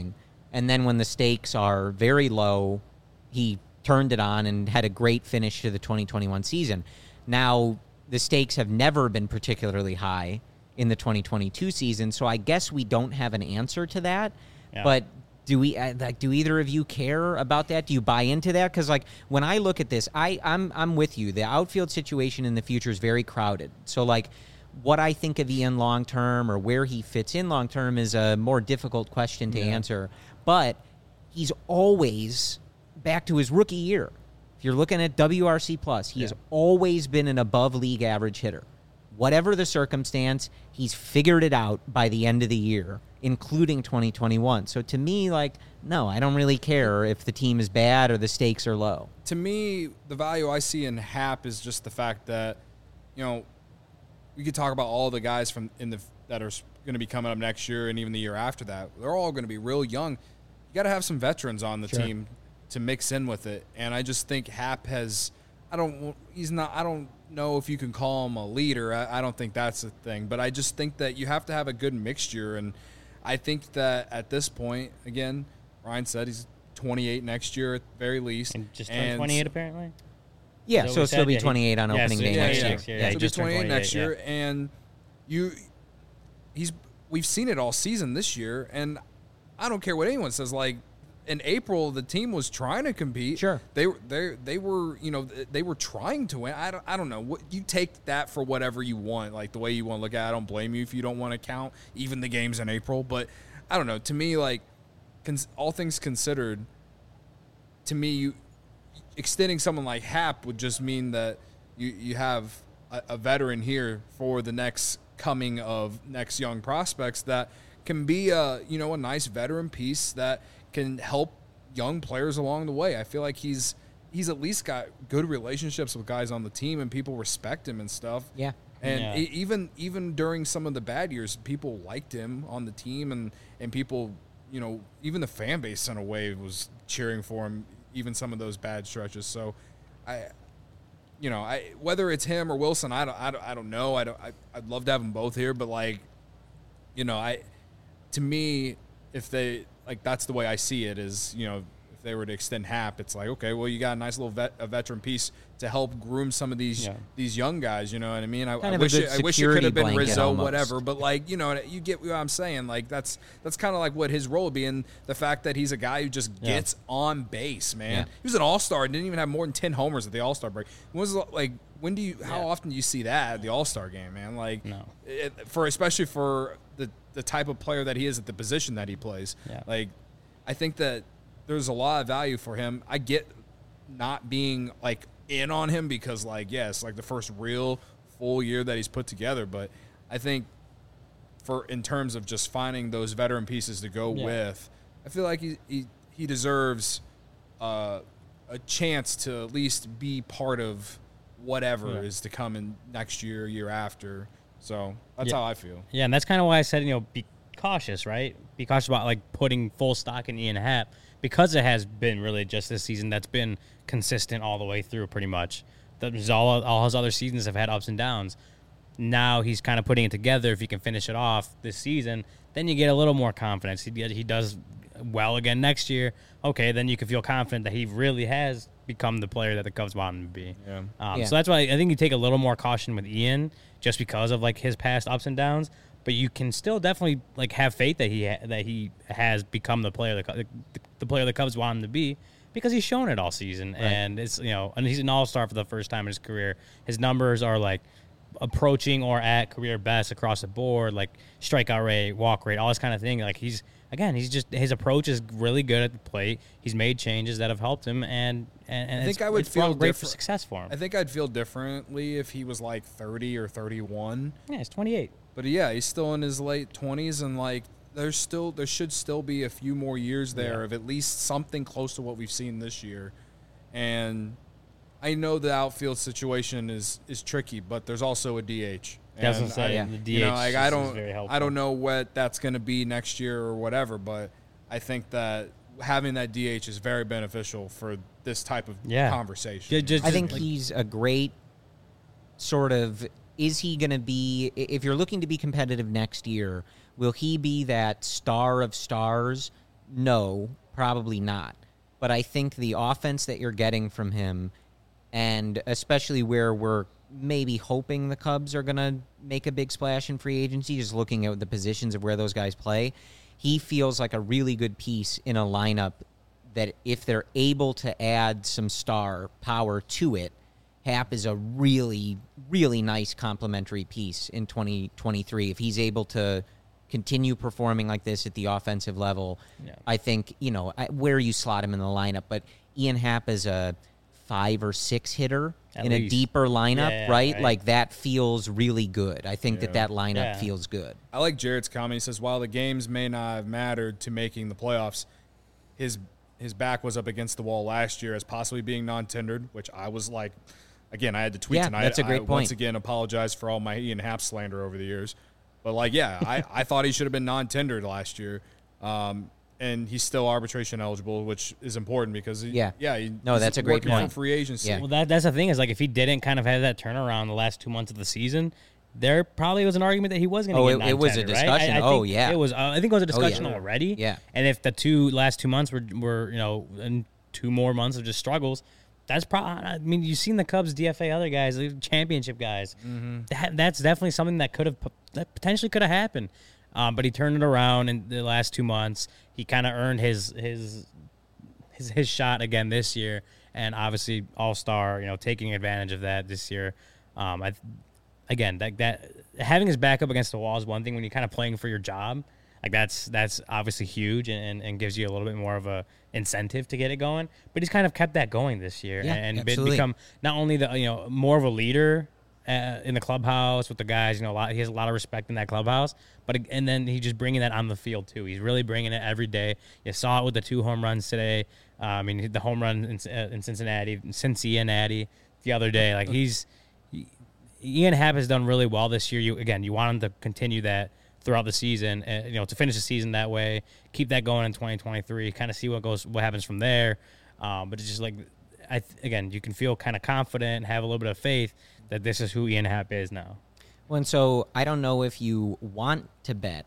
And then when the stakes are very low, he turned it on and had a great finish to the twenty twenty-one season. Now, the stakes have never been particularly high in the twenty twenty-two season, so I guess we don't have an answer to that. Yeah. But do we uh, like do either of you care about that? Do you buy into that? Because like when I look at this, I I'm I'm with you. The outfield situation in the future is very crowded. So like what I think of Ian long term or where he fits in long term is a more difficult question to yeah. answer. But he's always back to his rookie year. If you're looking at W R C plus, he yeah. has always been an above league average hitter. Whatever the circumstance, he's figured it out by the end of the year, including twenty twenty-one. So to me, like, no, I don't really care if the team is bad or the stakes are low. To me, the value I see in Happ is just the fact that, you know, we could talk about all the guys from in the that are going to be coming up next year and even the year after that. They're all going to be real young. You got to have some veterans on the sure. team to mix in with it. And I just think Happ has, I don't, he's not, I don't know if you can call him a leader. I, I don't think that's the thing. But I just think that you have to have a good mixture. And I think that at this point, again, Ryan said he's twenty-eight next year at the very least. And just turned twenty-eight apparently? Yeah, so, so it'll still be twenty-eight on yeah, opening so day yeah, next yeah, year. Next year. Yeah, Yeah, he'll just be twenty-eight next yeah. year. And you, he's, we've seen it all season this year. And I don't care what anyone says, like, in April, the team was trying to compete. Sure, they they they were you know they were trying to win. I don't I don't know what you take that for whatever you want, like the way you want to look at it. I don't blame you if you don't want to count even the games in April, but I don't know. To me, like cons- all things considered, to me, you extending someone like Happ would just mean that you you have a, a veteran here for the next coming of next young prospects that can be a you know a nice veteran piece that can help young players along the way. I feel like he's he's at least got good relationships with guys on the team and people respect him and stuff. Yeah. And yeah. e- even even during some of the bad years, people liked him on the team and, and people, you know, even the fan base in a way was cheering for him, even some of those bad stretches. So I you know, I whether it's him or Wilson, I don't I don't, I don't know. I don't I, I'd love to have them both here, but like you know, I to me if they like that's the way I see it is, you know, if they were to extend Happ, it's like, okay, well, you got a nice little vet, a veteran piece to help groom some of these yeah. these young guys, you know what I mean? I, I wish it, I wish it could have been Rizzo, almost. whatever, but like, you know, you get what I'm saying. Like that's that's kind of like what his role would be, and the fact that he's a guy who just yeah. gets on base, man. Yeah. He was an all-star and didn't even have more than ten homers at the all-star break. When was like when do you how yeah. often do you see that at the all-star game, man? Like no. it, for especially for the the type of player that he is at the position that he plays. Yeah. Like I think that there's a lot of value for him. I get not being like in on him because like, yes, like the first real full year that he's put together. But I think for in terms of just finding those veteran pieces to go yeah. with, I feel like he he, he deserves uh, a chance to at least be part of whatever yeah. is to come in next year, year after. So that's yeah. how I feel. Yeah, and that's kind of why I said, you know, be cautious, right? Be cautious about like putting full stock in Ian Happ because it has been really just this season that's been consistent all the way through pretty much. There's all, all his other seasons have had ups and downs. Now he's kind of putting it together. If he can finish it off this season, then you get a little more confidence. He, he does well again next year. Okay, then you can feel confident that he really has become the player that the Cubs want him to be. Yeah. Um, yeah. So that's why I think you take a little more caution with Ian just because of like his past ups and downs. But you can still definitely like have faith that he ha- that he has become the player the, the player the Cubs want him to be because he's shown it all season, right. and it's you know and he's an all-star for the first time in his career. His numbers are like approaching or at career best across the board, like strikeout rate, walk rate, all this kind of thing. Like he's again, he's just his approach is really good at the plate. He's made changes that have helped him, and and, and I think it's, I would it's feel great different. for success for him. I think I'd feel differently if he was like thirty or thirty-one. Yeah, he's twenty-eight. But yeah, he's still in his late twenties, and like there's still there should still be a few more years there yeah. of at least something close to what we've seen this year. And I know the outfield situation is is tricky, but there's also a D H. I was gonna say, I, yeah. the D H you know, like, I is don't very helpful. I don't know what that's going to be next year or whatever, but I think that having that D H is very beneficial for this type of yeah. conversation. Yeah, just, I think like, he's a great sort of, is he going to be, if you're looking to be competitive next year, will he be that star of stars no, probably not. But I think the offense that you're getting from him, and especially where we're maybe hoping the Cubs are going to make a big splash in free agency, just looking at the positions of where those guys play, he feels like a really good piece in a lineup that if they're able to add some star power to it, Happ is a really, really nice complementary piece in twenty twenty-three. If he's able to continue performing like this at the offensive level, yeah. I think, you know, where you slot him in the lineup, but Ian Happ is a five or six hitter At in least. a deeper lineup, yeah, yeah, right? right? Like that feels really good. I think yeah. that that lineup yeah. feels good. I like Jarrett's comment. He says, while the games may not have mattered to making the playoffs, his his back was up against the wall last year as possibly being non-tendered, which I was like, again, I had to tweet yeah, tonight. That's a great I point. Once again, apologize for all my Ian Happ slander over the years. But, like, yeah, I, I thought he should have been non-tendered last year. Um, and he's still arbitration eligible, which is important because, he, yeah, yeah he, no, that's a great point. Free agency. Yeah. Well, that that's the thing is, like, if he didn't kind of have that turnaround the last two months of the season, there probably was an argument that he was going to oh, get it, non-tendered, it was a discussion. Right? I, I oh, yeah. It was. Uh, I think it was a discussion oh, yeah. already. Yeah. And if the two last two months were, were you know, and two more months of just struggles, that's probably, I mean, you've seen the Cubs D F A other guys, the championship guys. Mm-hmm. That That's definitely something that could have, that potentially could have happened. Um, but he turned it around in the last two months. He kind of earned his, his his his shot again this year, and obviously all-star, you know, taking advantage of that this year. Um, I again, that that having his back up against the wall is one thing when you're kind of playing for your job. Like that's that's obviously huge and, and gives you a little bit more of a incentive to get it going. But he's kind of kept that going this year yeah, and absolutely. become not only the you know more of a leader uh, in the clubhouse with the guys. You know, a lot, he has a lot of respect in that clubhouse. But and then he just bringing that on the field too. He's really bringing it every day. You saw it with the two home runs today. Uh, I mean, the home run in, uh, in Cincinnati, Cincinnati the other day. Like he's he, Ian Happ has done really well this year. You again, you want him to continue that throughout the season, and you know, to finish the season that way, keep that going in twenty twenty-three, kind of see what goes, what happens from there. Um, but it's just like, I again, you can feel kind of confident, have a little bit of faith that this is who Ian Happ is now. Well, and so I don't know if you want to bet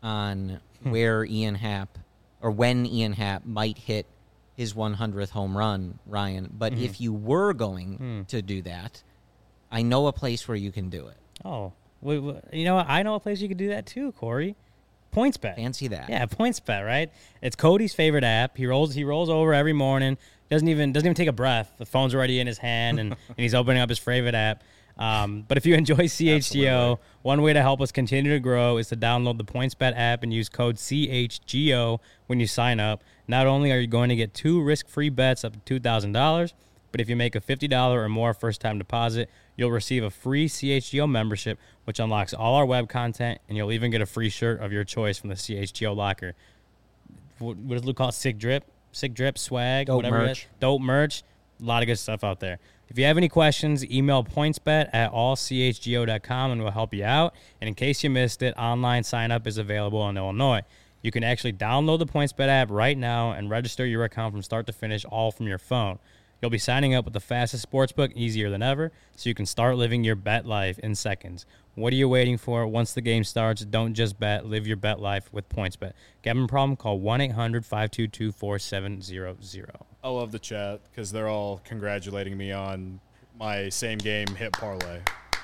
on where Ian Happ or when Ian Happ might hit his one hundredth home run, Ryan. But mm-hmm. if you were going mm. to do that, I know a place where you can do it. Oh. Wait, wait, you know what? I know a place you could do that too, Corey. PointsBet. Fancy that. Yeah, PointsBet, right? It's Cody's favorite app. He rolls he rolls over every morning. Doesn't even doesn't even take a breath. The phone's already in his hand, and, and he's opening up his favorite app. Um, but if you enjoy C H G O, Absolutely. One way to help us continue to grow is to download the PointsBet app and use code C H G O when you sign up. Not only are you going to get two risk-free bets up to two thousand dollars, but if you make a fifty dollars or more first-time deposit, you'll receive a free C H G O membership, which unlocks all our web content, and you'll even get a free shirt of your choice from the C H G O locker. What, what does Luke call it? Sick drip? Sick drip, swag, Dope whatever merch. it is. Dope merch. A lot of good stuff out there. If you have any questions, email pointsbet at all c h g o dot com, and we'll help you out. And in case you missed it, online sign-up is available in Illinois. You can actually download the PointsBet app right now and register your account from start to finish, all from your phone. You'll be signing up with the fastest sportsbook, easier than ever, so you can start living your bet life in seconds. What are you waiting for? Once the game starts, don't just bet. Live your bet life with PointsBet. Gambling problem? Call one eight hundred five two two four seven zero zero. I love the chat because they're all congratulating me on my same game hit parlay.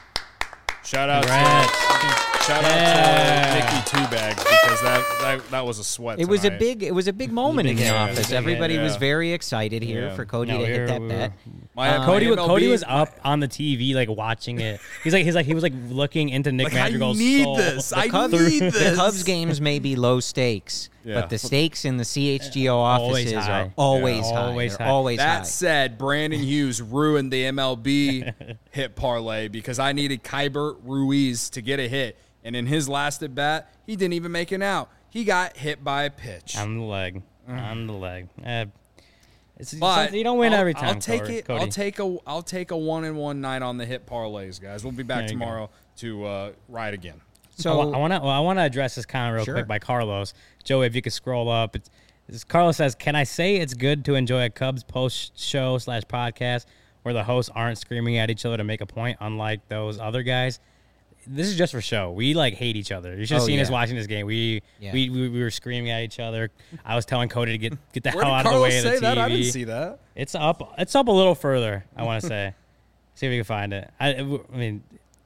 Shout out Congrats. to shout yeah. out to Nikki Two Bags because that, that that was a sweat. It tonight. was a big it was a big moment in the yeah, office. yeah, Everybody yeah. was very excited here Yeah. for Cody No, to we hit were- that we bet. were- My, Um, Cody, my M L B Cody was up on the T V, like watching it. He's like, he's like, he was like looking into Nick Like, Madrigal's I need soul. this. I Cubs, need the this. Cubs games may be low stakes, Yeah. but the stakes in the C H G O Always offices high. are always Yeah. high. Always They're high. always That high. said, Brandon Hughes ruined the M L B hit parlay because I needed Kybert Ruiz to get a hit. And in his last at bat, he didn't even make an out. He got hit by a pitch. on the leg, on the leg. Uh, it's, But you don't win I'll, every time. I'll take Cody. it. Cody. I'll take a. I'll take a one and one night on the hit parlays, guys. We'll be back There you tomorrow to uh, ride again. So I want to. Well, I want to address this comment real Sure. quick by Carlos. Joey, if you could scroll up. It's, it's, Carlos says, "Can I say it's good to enjoy a Cubs post show slash podcast where the hosts aren't screaming at each other to make a point, unlike those other guys?" this is just for show. We like hate each other. You should have Oh, seen us yeah. watching this game. We, Yeah. we we we were screaming at each other. I was telling Cody to get get the Where hell did out of the Carlos way of the say T V. that? I didn't see that. It's up. It's up a little further. I want to say. See if we can find it. I, I mean,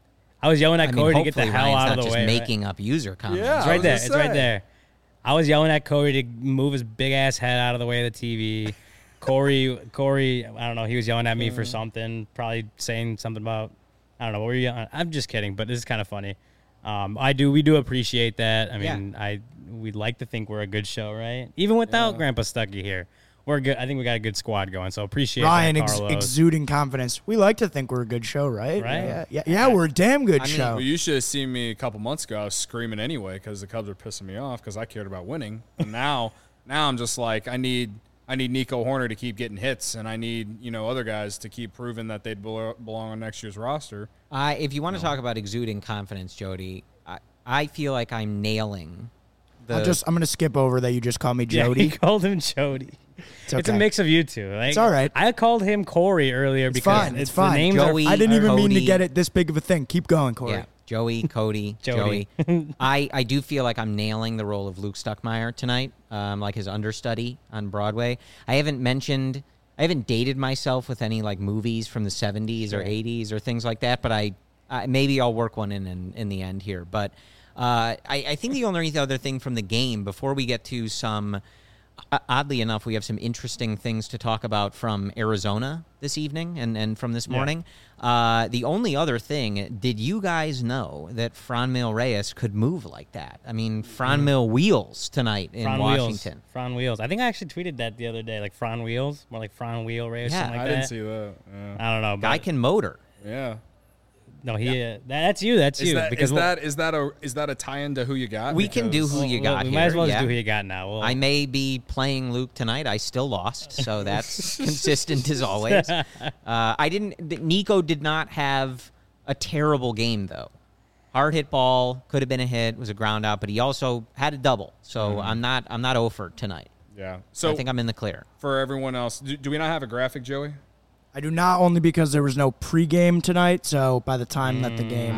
I was yelling at I mean, Cody to get the hopefully hell Ryan's out of not the just way. right? making up user comments. Yeah. It's I right was there. gonna It's right say. there. I was yelling at Corey to move his big ass head out of the way of the T V. Corey, Corey, I don't know. He was yelling at me for something, probably saying something about, I don't know. What were you yelling? I'm just kidding, but this is kind of funny. Um, I do, we do appreciate that. I mean, Yeah. I we'd like to think we're a good show, right? Even without Yeah. Grandpa Stuckey here, we're good. I think we got a good squad going. So appreciate Ryan that, ex- Carlos. exuding confidence. We like to think we're a good show, right? Right. Yeah, yeah, yeah we're a damn good I mean- show. Well, you should have seen me a couple months ago. I was screaming anyway because the Cubs were pissing me off because I cared about winning. And now, now I'm just like, I need, I need Nico Horner to keep getting hits, and I need you know other guys to keep proving that they belo- belong on next year's roster. I if you want to talk about exuding confidence, Jody, I, I feel like I'm nailing the. I'll just, I'm going to skip over that you just called me Yeah, Jody. he called him Jody. It's It's a okay. mix of you two. Like, It's all right. I called him Corey earlier It's because fine. It's the fine. names Joey- are I didn't even mean to Cody. get it this big of a thing. Keep going, Corey. Yeah, Joey, Cody, Jody. Joey. I, I do feel like I'm nailing the role of Luke Stuckmeyer tonight, um, like his understudy on Broadway. I haven't mentioned, I haven't dated myself with any like movies from the seventies or eighties or things like that, but I, I maybe I'll work one in in, in the end here. But uh, I, I think the only other thing from the game before we get to some. Uh, oddly enough, we have some interesting things to talk about from Arizona this evening and, and from this Yeah. morning. Uh, the only other thing, did you guys know that Franmil Reyes could move like that? I mean, Franmil wheels tonight in Fran Washington. Wheels. Fran Wheels. I think I actually tweeted that the other day, like Fran Wheels, more like Fran Wheel Ray or Yeah. something like I that. didn't see that. Yeah. I don't know. But Guy can motor. yeah. no, he. Uh, that, that's you. That's Is you. that, because is we'll- that is that a is that a tie-in to who you got? We can do Because- who you well, got We here. might as well yeah. just do who you got now. We'll, I may be playing Luke tonight. I still lost, so that's consistent as always. Uh, I didn't. Nico did not have a terrible game though. Hard hit ball could have been a hit. Was a ground out, but he also had a double. So I'm not. I'm not over tonight. Yeah. So So I think I'm in the clear. for everyone else, do, do we not have a graphic, Joey? I do not, only because there was no pregame tonight. So by the time that the game,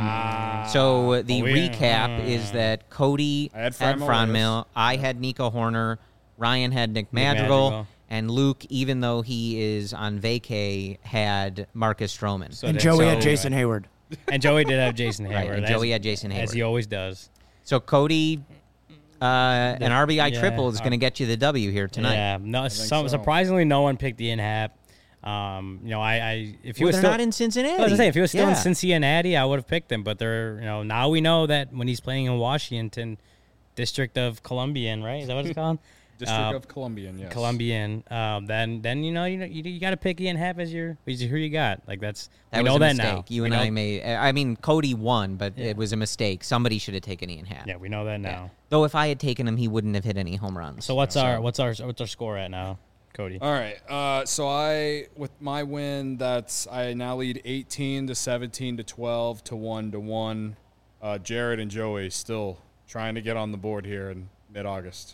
So uh, the we- recap is that Cody I had had Franmil Franmil, I had Nico Horner, Ryan had Nick Madrigal, Madrigal. and Luke, even though he is on vacay, had Marcus Stroman. So and did- Joey so- had Jason Hayward. and Joey did have Jason Right, Hayward. and as- Joey had Jason as Hayward. he always does. So Cody, uh, an R B I yeah, triple is going to get you the W here tonight. Yeah, no. Some, so. Surprisingly, no one picked the in-hap. Um, you know, I, I if he Well, was they're still, not in Cincinnati. I was gonna say, if he was still Yeah. in Cincinnati, I would have picked him. But they're, you know, now we know that when he's playing in Washington, District of Columbian, right? Is that what it's called? District Uh, of Columbian, yes. Columbian. Um, then, then you know, you know, you, you got to pick Ian Happ as your, as who you got. Like that's That we was know a that mistake. now. You We and know- I made. I mean, Cody won, but Yeah. it was a mistake. Somebody should have taken Ian Happ. Yeah, we know that now. Though if I had taken him, he wouldn't have hit any home runs. So what's our what's our what's our score at now, Cody? All right. Uh, so I, with my win, that's I now lead eighteen to seventeen to twelve to one to one. Uh, Jared and Joey still trying to get on the board here in mid-August.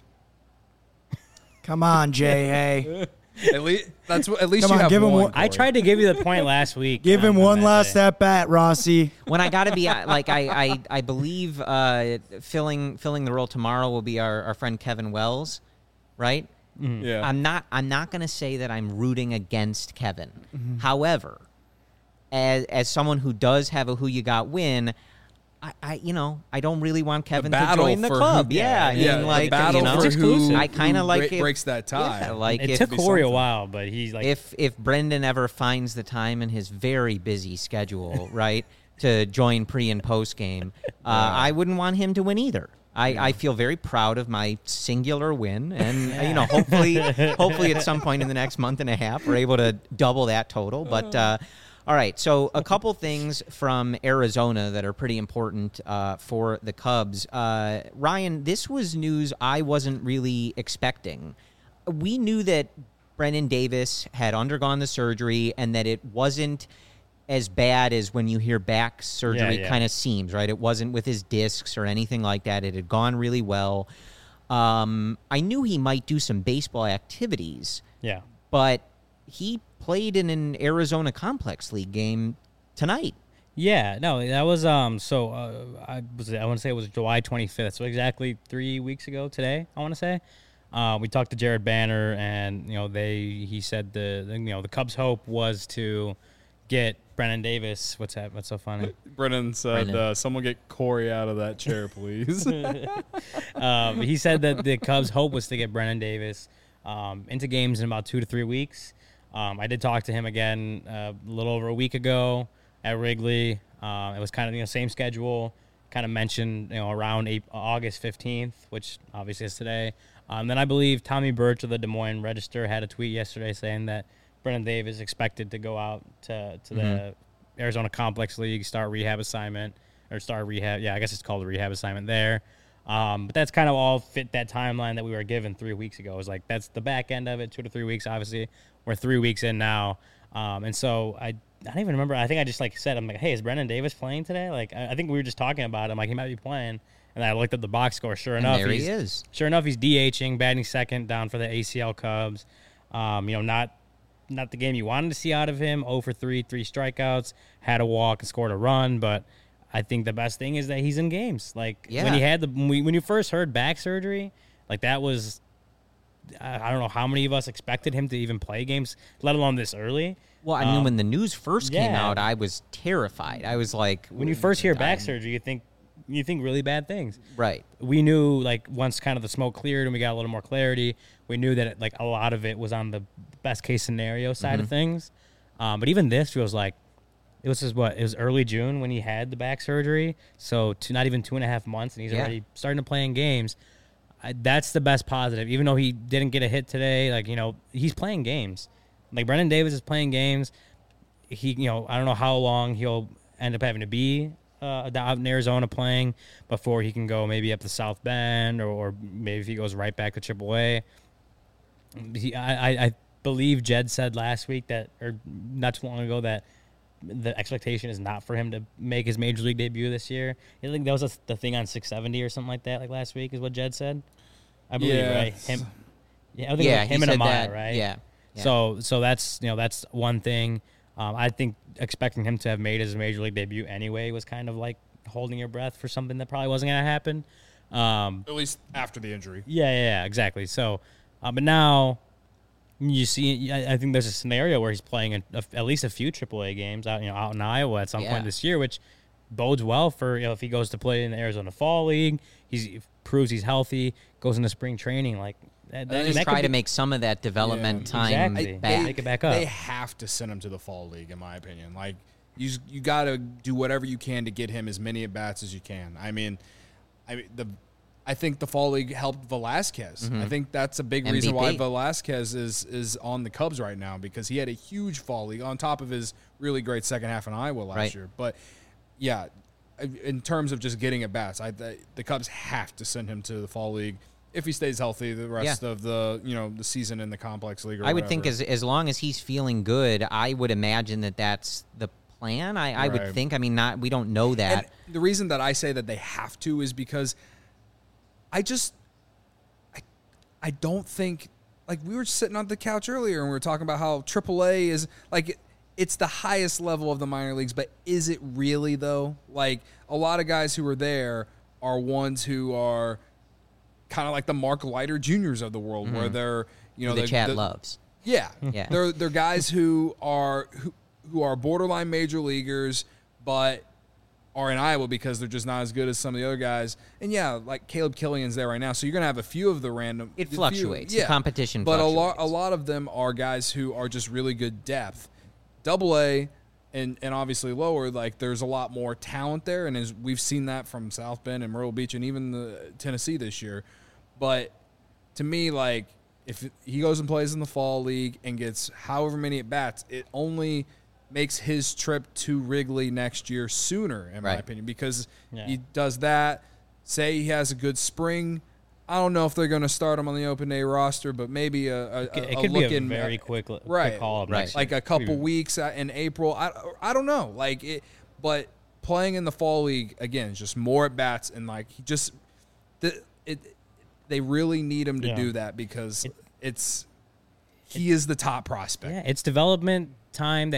Come on, Jay. Hey, At least that's what- at least Come you on, have give him one. one- I Corey. tried to give you the point last week. give him on- on one that last day. at bat, Rossi. when I got to be uh, like I I, I believe uh, filling filling the role tomorrow will be our, our friend Kevin Wells, right? Yeah. I'm not I'm not going to say that I'm rooting against Kevin. Mm-hmm. However, as as someone who does have a who you got win, I, I you know I don't really want Kevin to battle join the for club. who- yeah, I mean yeah, like the battle you know, for who, I kind who of like break- it- breaks that tie. Yeah, like It if, took be Corey a something. while, but he's like, if if Brendan ever finds the time in his very busy schedule, right, to join pre and post game, uh, I wouldn't want him to win either. I, I feel very proud of my singular win, and you know, hopefully, hopefully at some point in the next month and a half, we're able to double that total. But uh, all right, so a couple things from Arizona that are pretty important uh, for the Cubs. Uh, Ryan, this was news I wasn't really expecting. We knew that Brennan Davis had undergone the surgery and that it wasn't as bad as when you hear back surgery Yeah, yeah. kind of seems, right? It wasn't with his discs or anything like that. It had gone really well. Um, I knew he might do some baseball activities, yeah, but he played in an Arizona Complex League game tonight. Yeah, no, that was um. So uh, I was I want to say it was July twenty-fifth. So exactly three weeks ago today. I want to say. Uh, we talked to Jared Banner, and you know they he said the, the you know the Cubs' hope was to get Brennan Davis. What's that? What's so funny? Brennan said, Brennan. Uh, "Someone get Corey out of that chair, please." um, he said that the Cubs' hope was to get Brennan Davis um, into games in about two to three weeks. Um, I did talk to him again uh, a little over a week ago at Wrigley. Uh, it was kind of you know same schedule. Kind of mentioned you know around April, August fifteenth, which obviously is today. Um, then I believe Tommy Birch of the Des Moines Register had a tweet yesterday saying that Brennan Davis is expected to go out to, to mm-hmm. the Arizona Complex League, start rehab assignment, or start rehab. Yeah, I guess it's called a rehab assignment there. Um, but that's kind of all fit that timeline that we were given three weeks ago. It was like that's the back end of it, two to three weeks. Obviously, we're three weeks in now. Um, and so I, I don't even remember. I think I just like said, I'm like, hey, is Brennan Davis playing today? Like, I, I think we were just talking about him. Like, he might be playing. And I looked at the box score. Sure enough, and there he's, he is. Sure enough, he's DHing, batting second, down for the A C L Cubs. Um, you know, not not the game you wanted to see out of him. oh for three, three strikeouts, had a walk and scored a run. But I think the best thing is that he's in games. Like yeah. when he had the when, we, when you first heard back surgery, like that was I don't know how many of us expected him to even play games, let alone this early. Well, I mean, um, when the news first yeah. came out, I was terrified. I was like, when you first hear back I'm, surgery, you think. You think really bad things. Right. We knew, like, once kind of the smoke cleared and we got a little more clarity, we knew that, it, like, a lot of it was on the best-case scenario side mm-hmm. of things. Um, but even this feels like it was just, what, it was early June when he had the back surgery, so two, not even two and a half months, and he's yeah. already starting to play in games. I, that's the best positive. Even though he didn't get a hit today, like, you know, he's playing games. Like, Brennan Davis is playing games. He, you know, I don't know how long he'll end up having to be Uh, out in Arizona playing before he can go maybe up to South Bend or, or maybe if he goes right back to triple A. He, I, I believe Jed said last week that, or not too long ago, that the expectation is not for him to make his major league debut this year. I think that was a, the thing on six seventy or something like that, like last week, is what Jed said. I believe, yeah. right? Him, yeah, I think yeah, it was him he and said Amaya, that. right? Yeah. yeah. So, so that's you know that's one thing. Um, I think expecting him to have made his major league debut anyway was kind of like holding your breath for something that probably wasn't going to happen. Um, At least after the injury. yeah, yeah, yeah, exactly. So, uh, but now you see, I, I think there's a scenario where he's playing a, a, at least a few triple A games out, you know, out in Iowa at some Yeah. point this year, which bodes well for you know if he goes to play in the Arizona Fall League. He proves he's healthy, goes into spring training, like. That, They that, just that try could to be, make some of that development Yeah. time Exactly. back. Make it back up. They have to send him to the fall league, in my opinion. Like you, you got to do whatever you can to get him as many at bats as you can. I mean, I mean the, I think the fall league helped Velasquez. Mm-hmm. I think that's a big M V P. reason why Velasquez is is on the Cubs right now because he had a huge fall league on top of his really great second half in Iowa last Right. year. But yeah, in terms of just getting at bats, I the, the Cubs have to send him to the fall league. If he stays healthy the rest Yeah. of the you know the season in the complex league, or I would whatever. think as as long as he's feeling good, I would imagine that that's the plan. I, I would Right. think. I mean, not we don't know that. And the reason that I say that they have to is because I just I I don't think like we were sitting on the couch earlier and we were talking about how triple A is like it's the highest level of the minor leagues, but is it really though? Like a lot of guys who are there are ones who are kind of like the Mark Leiter Juniors of the world, mm-hmm. where they're you know the they're, Chad they're, loves. Yeah, Yeah. they're they're guys who are who, who are borderline major leaguers, but are in Iowa because they're just not as good as some of the other guys. And yeah, like Caleb Killian's there right now, so you're gonna have a few of the random. It the few- fluctuates. The yeah, competition but a lot fluctuates. a lot of them are guys who are just really good depth. Double A. And, and obviously lower, like there's a lot more talent there, and as we've seen that from South Bend and Myrtle Beach and even the Tennessee this year. But to me, like if he goes and plays in the fall league and gets however many at bats, it only makes his trip to Wrigley next year sooner, in my Right. opinion, because Yeah. he does that. Say he has a good spring. I don't know if they're going to start him on the open day roster, but maybe a, a, It could, a, it a could look be a in very quick, quick right, call up right. next like year. a couple Could be- weeks in April. I, I don't know. Like it, but playing in the fall league again is just more at bats and like he just the it. They really need him to Yeah. do that because it, it's he is the top prospect. Yeah, it's development time that he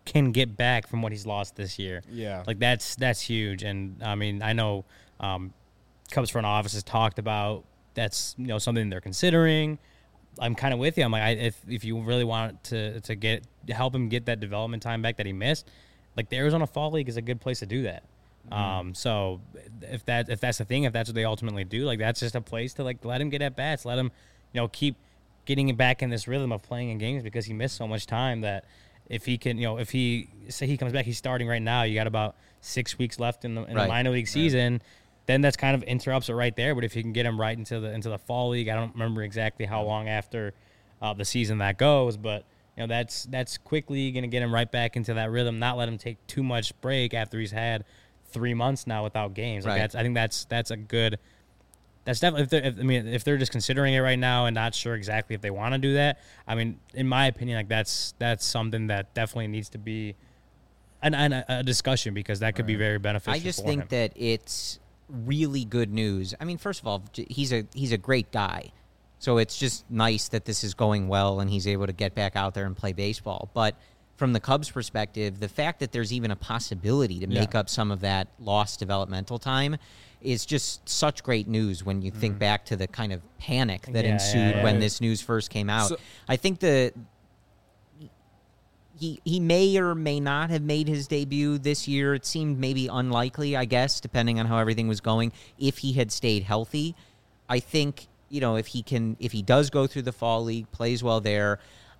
can get back from what he's lost this year. Yeah. Like that's that's huge. And I mean, I know um, Cubs front office has talked about that's you know something they're considering. I'm kind of with you. I'm like, I, if if you really want to to get help him get that development time back that he missed, like the Arizona Fall League is a good place to do that. Mm-hmm. Um, so if that if that's the thing, if that's what they ultimately do, like that's just a place to like let him get at bats, let him, you know, keep getting him back in this rhythm of playing in games because he missed so much time that if he can, you know, if he say he comes back, he's starting right now. You got about six weeks left in the in Right. the minor league season. Right. Then that's kind of interrupts it right there. But if you can get him right into the into the fall league, I don't remember exactly how long after uh, the season that goes, but you know that's that's quickly going to get him right back into that rhythm. Not let him take too much break after he's had three months now without games. Like right. that's I think that's that's a good. That's definitely if, they're, if I mean if they're just considering it right now and not sure exactly if they want to do that. I mean, in my opinion, like that's that's something that definitely needs to be an, an a discussion because that could right. be very beneficial. I just for think him. that it's really good news. I mean, first of all, he's a he's a great guy, so it's just nice that this is going well and he's able to get back out there and play baseball. But from the Cubs' perspective, the fact that there's even a possibility to make yeah. up some of that lost developmental time is just such great news when you mm. think back to the kind of panic that yeah, ensued yeah, yeah. when this news first came out. So, I think the he he may or may not have made his debut this year. It seemed maybe unlikely, I guess, depending on how everything was going, if he had stayed healthy. I think, you know, if he can if he does go through the fall league, plays well there,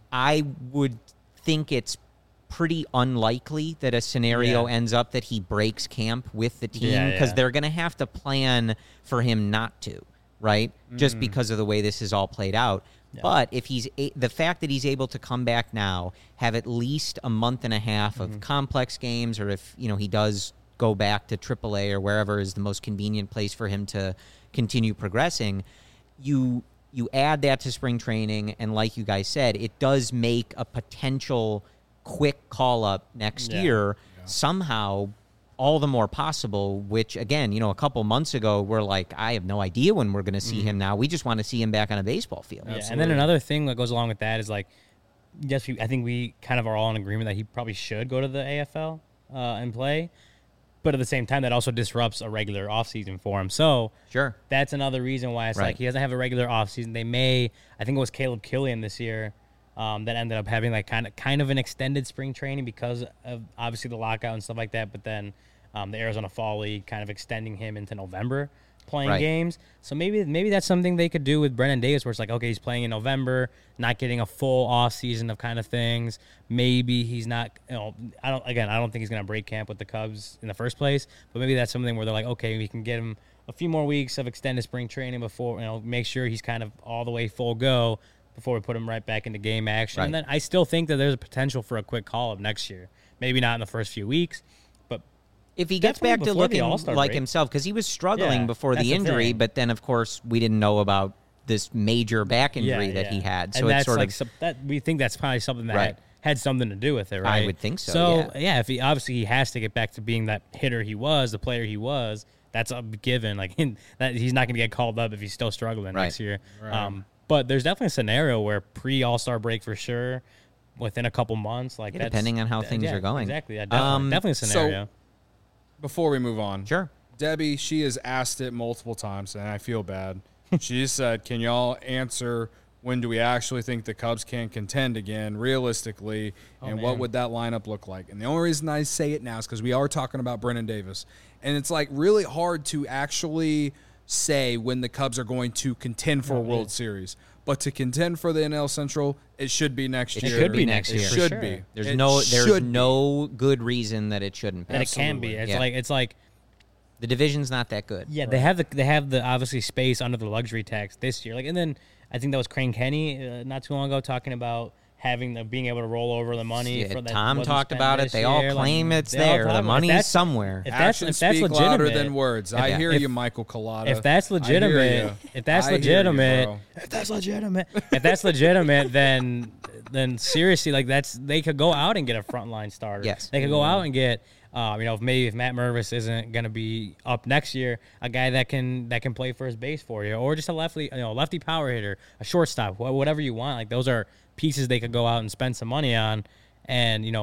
I would think it's pretty unlikely that a scenario yeah. ends up that he breaks camp with the team because yeah, yeah. they're going to have to plan for him not to, right? Mm. Just because of the way this is all played out. Yeah. But if he's a- the fact that he's able to come back now, have at least a month and a half of mm-hmm. complex games, or if you know he does go back to triple A or wherever is the most convenient place for him to continue progressing, you you add that to spring training, and like you guys said, it does make a potential quick call-up next yeah. year yeah. somehow all the more possible, which, again, you know, a couple months ago, we're like, I have no idea when we're going to see mm-hmm. him now. We just want to see him back on a baseball field. Yeah, and then another thing that goes along with that is, like, yes, we, I think we kind of are all in agreement that he probably should go to the A F L uh, and play. But at the same time, that also disrupts a regular offseason for him. So sure, that's another reason why it's right. like he doesn't have a regular offseason. They may, I think it was Caleb Killian this year, Um, that ended up having like kind of kind of an extended spring training because of obviously the lockout and stuff like that. But then um, the Arizona Fall League kind of extending him into November playing right. games. So maybe maybe that's something they could do with Brennan Davis, where it's like, okay, he's playing in November, not getting a full off season of kind of things. Maybe he's not, you know, I don't again, I don't think he's gonna break camp with the Cubs in the first place. But maybe that's something where they're like, okay, we can get him a few more weeks of extended spring training before, you know, make sure he's kind of all the way full go before we put him right back into game action. Right. And then I still think that there's a potential for a quick call-up next year. Maybe not in the first few weeks, but if he gets back to looking like break. himself, because he was struggling yeah, before the injury, the but then, of course, we didn't know about this major back injury yeah, that yeah. he had. So and it's that's sort like of some, that we think that's probably something that right. had, had something to do with it, right? I would think so. So yeah. yeah, if he obviously he has to get back to being that hitter he was, the player he was. That's a given. Like that, he's not going to get called up if he's still struggling right. next year. Right. Um, But there's definitely a scenario where pre All-Star break for sure, within a couple months, like yeah, that's, depending on how that, things yeah, are going. Exactly, yeah, definitely, Um, definitely a scenario. So, before we move on, sure. Debbie, she has asked it multiple times, and I feel bad. She said, "Can y'all answer when do we actually think the Cubs can contend again, realistically, Oh, and man. what would that lineup look like?" And the only reason I say it now is because we are talking about Brennan Davis, and it's like really hard to actually say when the Cubs are going to contend for Oh, a World yeah. Series. But to contend for the N L Central, it should be next It year. should be next It year. should For be. sure. There's It no there's should be. no good reason that it shouldn't be. And it can be. Absolutely. It's Yeah. like it's like The division's not that good. yeah, they have the they have the obviously space under the luxury tax this year. Like, and then I think that was Crane Kenny uh, not too long ago talking about having the being able to roll over the money. Yeah, for that Tom wasn't talked spent about it. this They all year. claim Like, it's they all there. talk The about it. If money's that's- somewhere. If that's Actions if that's speak legitimate, louder than words. I if- hear if- you, Michael Collada. If that's I hear legitimate, you. if that's I hear you, legitimate, bro. if that's legitimate, if that's legitimate, then then seriously, like that's they could go out and get a frontline starter. Yes. they could go out and get, um, you know, if maybe if Matt Mervis isn't going to be up next year, a guy that can that can play first base for you, or just a lefty, you know, lefty power hitter, a shortstop, wh- whatever you want. Like those are pieces they could go out and spend some money on, and you know.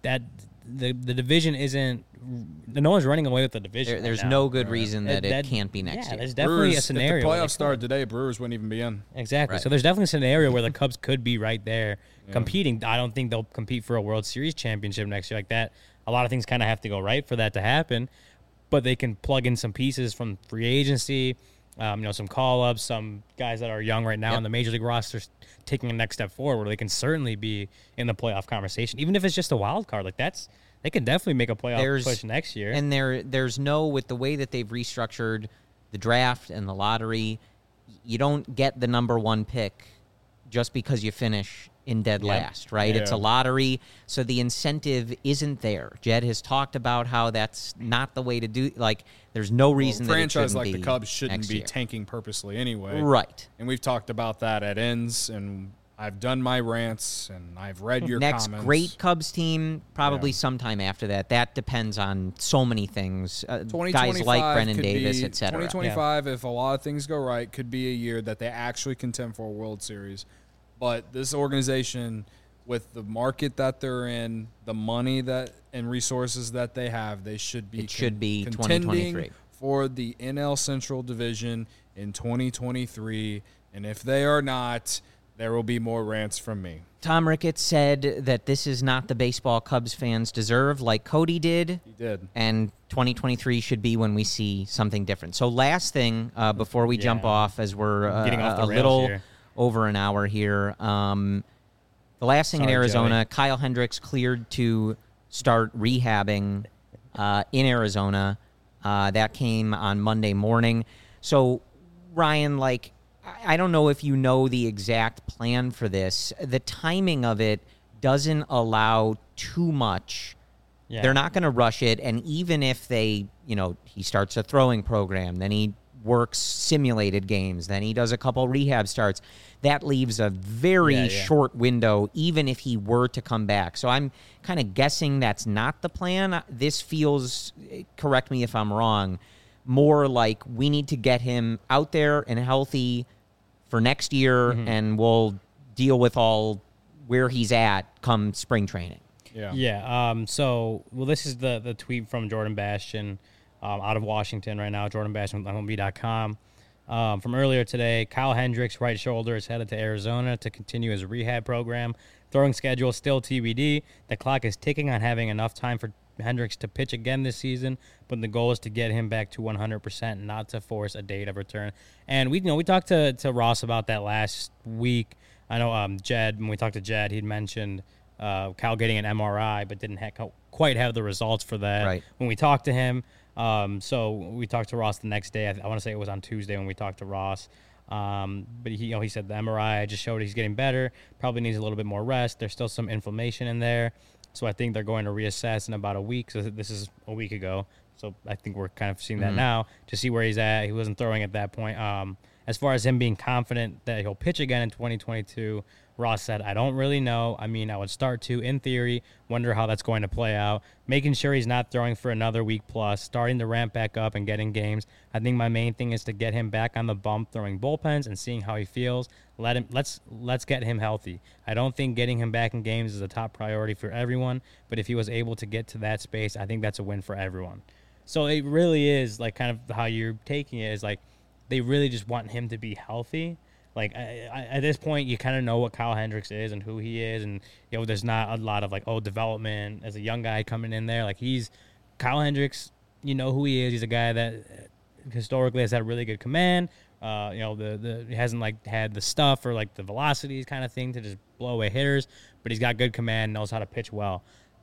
that the the division isn't. No one's running away with the division. There, right there's now. no good reason that, That- that- it can't be next yeah, year. there's definitely Brewers, a scenario. If the where they playoffs started could. today, Brewers wouldn't even be in. Exactly. Right. So there's definitely a scenario where the Cubs could be right there Yeah. competing. I don't think they'll compete for a World Series championship next year like that. A lot of things kind of have to go right for that to happen, but they can plug in some pieces from free agency, um, you know, some call-ups, some guys that are young right now Yep. on the Major League roster taking a next step forward where they can certainly be in the playoff conversation, even if it's just a wild card. Like that's they can definitely make a playoff There's- push next year. And there, there's no, with the way that they've restructured the draft and the lottery, you don't get the number one pick just because you finish in dead Yep. last, right? It's a Yeah. lottery, so the incentive isn't there. Jed has talked about how that's not the way to do. Like, there's no reason Well, a that it franchise shouldn't like the be Cubs shouldn't next be year. tanking purposely anyway. Right. And we've talked about that at ends, and I've done my rants, and I've read your Next comments. great Cubs team, probably Yeah. sometime after that. That depends on so many things. Uh, twenty guys twenty-five like Brennan could Davis, be, et cetera. twenty twenty-five, if a lot of things go right, could be a year that they actually contend for a World Series. But this organization, with the market that they're in, the money that and resources that they have, they should be It should be contending twenty twenty-three. for the N L Central Division in twenty twenty-three. And if they are not, there will be more rants from me. Tom Ricketts said that this is not the baseball Cubs fans deserve, like Cody did, He did. and twenty twenty-three should be when we see something different. So last thing, uh, before we jump Yeah. off, as we're uh, Getting off the a rails little here. over an hour here, um, the last thing in Sorry, Arizona, Kyle Hendricks cleared to start rehabbing uh, in Arizona. Uh, that came on Monday morning. So, Ryan, like, I I don't know if you know the exact plan for this. The timing of it doesn't allow too much. Yeah. They're not going to rush it. And even if they, you know, he starts a throwing program, then he works simulated games, then he does a couple rehab starts, that leaves a very Yeah, yeah. short window, even if he were to come back. So I'm kind of guessing that's not the plan. This feels, correct me if I'm wrong, more like we need to get him out there and healthy for next year, Mm-hmm. and we'll deal with all where he's at come spring training. Yeah. Yeah. Um. So, well, this is the the tweet from Jordan Bastian, um, out of Washington right now. Jordan Bastian with M L B dot com. Um, from earlier today, Kyle Hendricks' right shoulder is headed to Arizona to continue his rehab program. Throwing schedule still T B D. The clock is ticking on having enough time for Hendricks to pitch again this season, but the goal is to get him back to one hundred percent, not to force a date of return. And we, you know, we talked to, to Ross about that last week. I know um, Jed, when we talked to Jed, he'd mentioned uh, Kyle getting an M R I, but didn't ha- quite have the results for that. Right. When we talked to him, um, so we talked to Ross the next day. I, I want to say it was on Tuesday when we talked to Ross. Um, but he, you know, he said the M R I just showed he's getting better. Probably needs a little bit more rest. There's still some inflammation in there, so I think they're going to reassess in about a week. So this is a week ago. So I think we're kind of seeing that Mhm. now to see where he's at. He wasn't throwing at that point. Um, as far as him being confident that he'll pitch again in twenty twenty-two, Ross said, I don't really know. I mean, I would start to, in theory, wonder how that's going to play out. Making sure he's not throwing for another week plus, starting to ramp back up and getting games. I think my main thing is to get him back on the bump, throwing bullpens and seeing how he feels. Let him let's let's get him healthy. I don't think getting him back in games is a top priority for everyone, but if he was able to get to that space, I think that's a win for everyone. So it really is like kind of how you're taking it is like they really just want him to be healthy. Like I, I, at this point, you kind of know what Kyle Hendricks is and who he is, and you know there's not a lot of like oh development as a young guy coming in there. Like he's Kyle Hendricks, you know who he is. He's a guy that historically has had really good command. Uh, you know the the he hasn't like had the stuff or like the velocities kind of thing to just blow away hitters, but he's got good command, knows how to pitch well.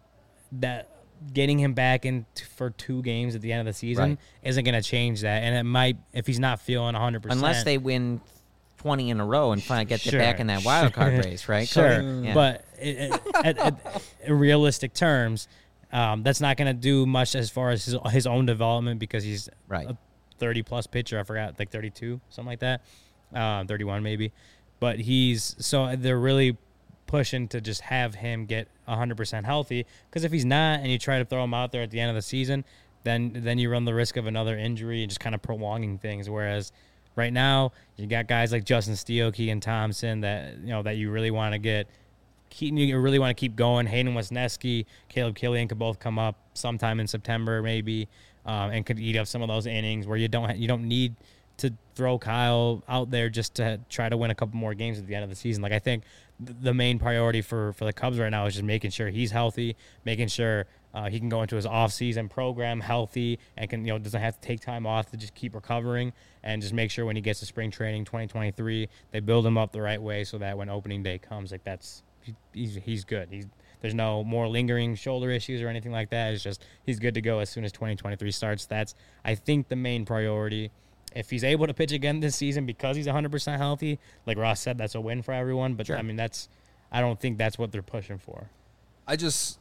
That getting him back in t- for two games at the end of the season Right. isn't going to change that, and it might if he's not feeling one hundred percent. Unless they win twenty in a row and finally get Sure, back in that wild card sure, race, right? Sure, Cody? Yeah. but it, it, at, at, in realistic terms, um, that's not going to do much as far as his, his own development because he's Right. a thirty-plus pitcher. I forgot, like thirty-two, something like that, uh, thirty-one maybe. But he's so they're really pushing to just have him get one hundred percent healthy because if he's not and you try to throw him out there at the end of the season, then then you run the risk of another injury and just kind of prolonging things. Whereas right now you got guys like Justin Steele, Keegan Thompson that you know that you really want to get keep, you really want to keep going. Hayden Wesneski, Caleb Killian could both come up sometime in September maybe, um, and could eat up some of those innings where you don't ha- you don't need to throw Kyle out there just to try to win a couple more games at the end of the season. Like I think th- the main priority for, for the Cubs right now is just making sure he's healthy, making sure uh, he can go into his off-season program healthy and can you know doesn't have to take time off to just keep recovering, and just make sure when he gets to spring training twenty twenty-three they build him up the right way so that when opening day comes, like that's he, he's he's good. He's There's no more lingering shoulder issues or anything like that. It's just he's good to go as soon as twenty twenty-three starts. That's I think the main priority. If he's able to pitch again this season because he's one hundred percent healthy, like Ross said, that's a win for everyone. But, Sure. I mean, that's I don't think that's what they're pushing for. I just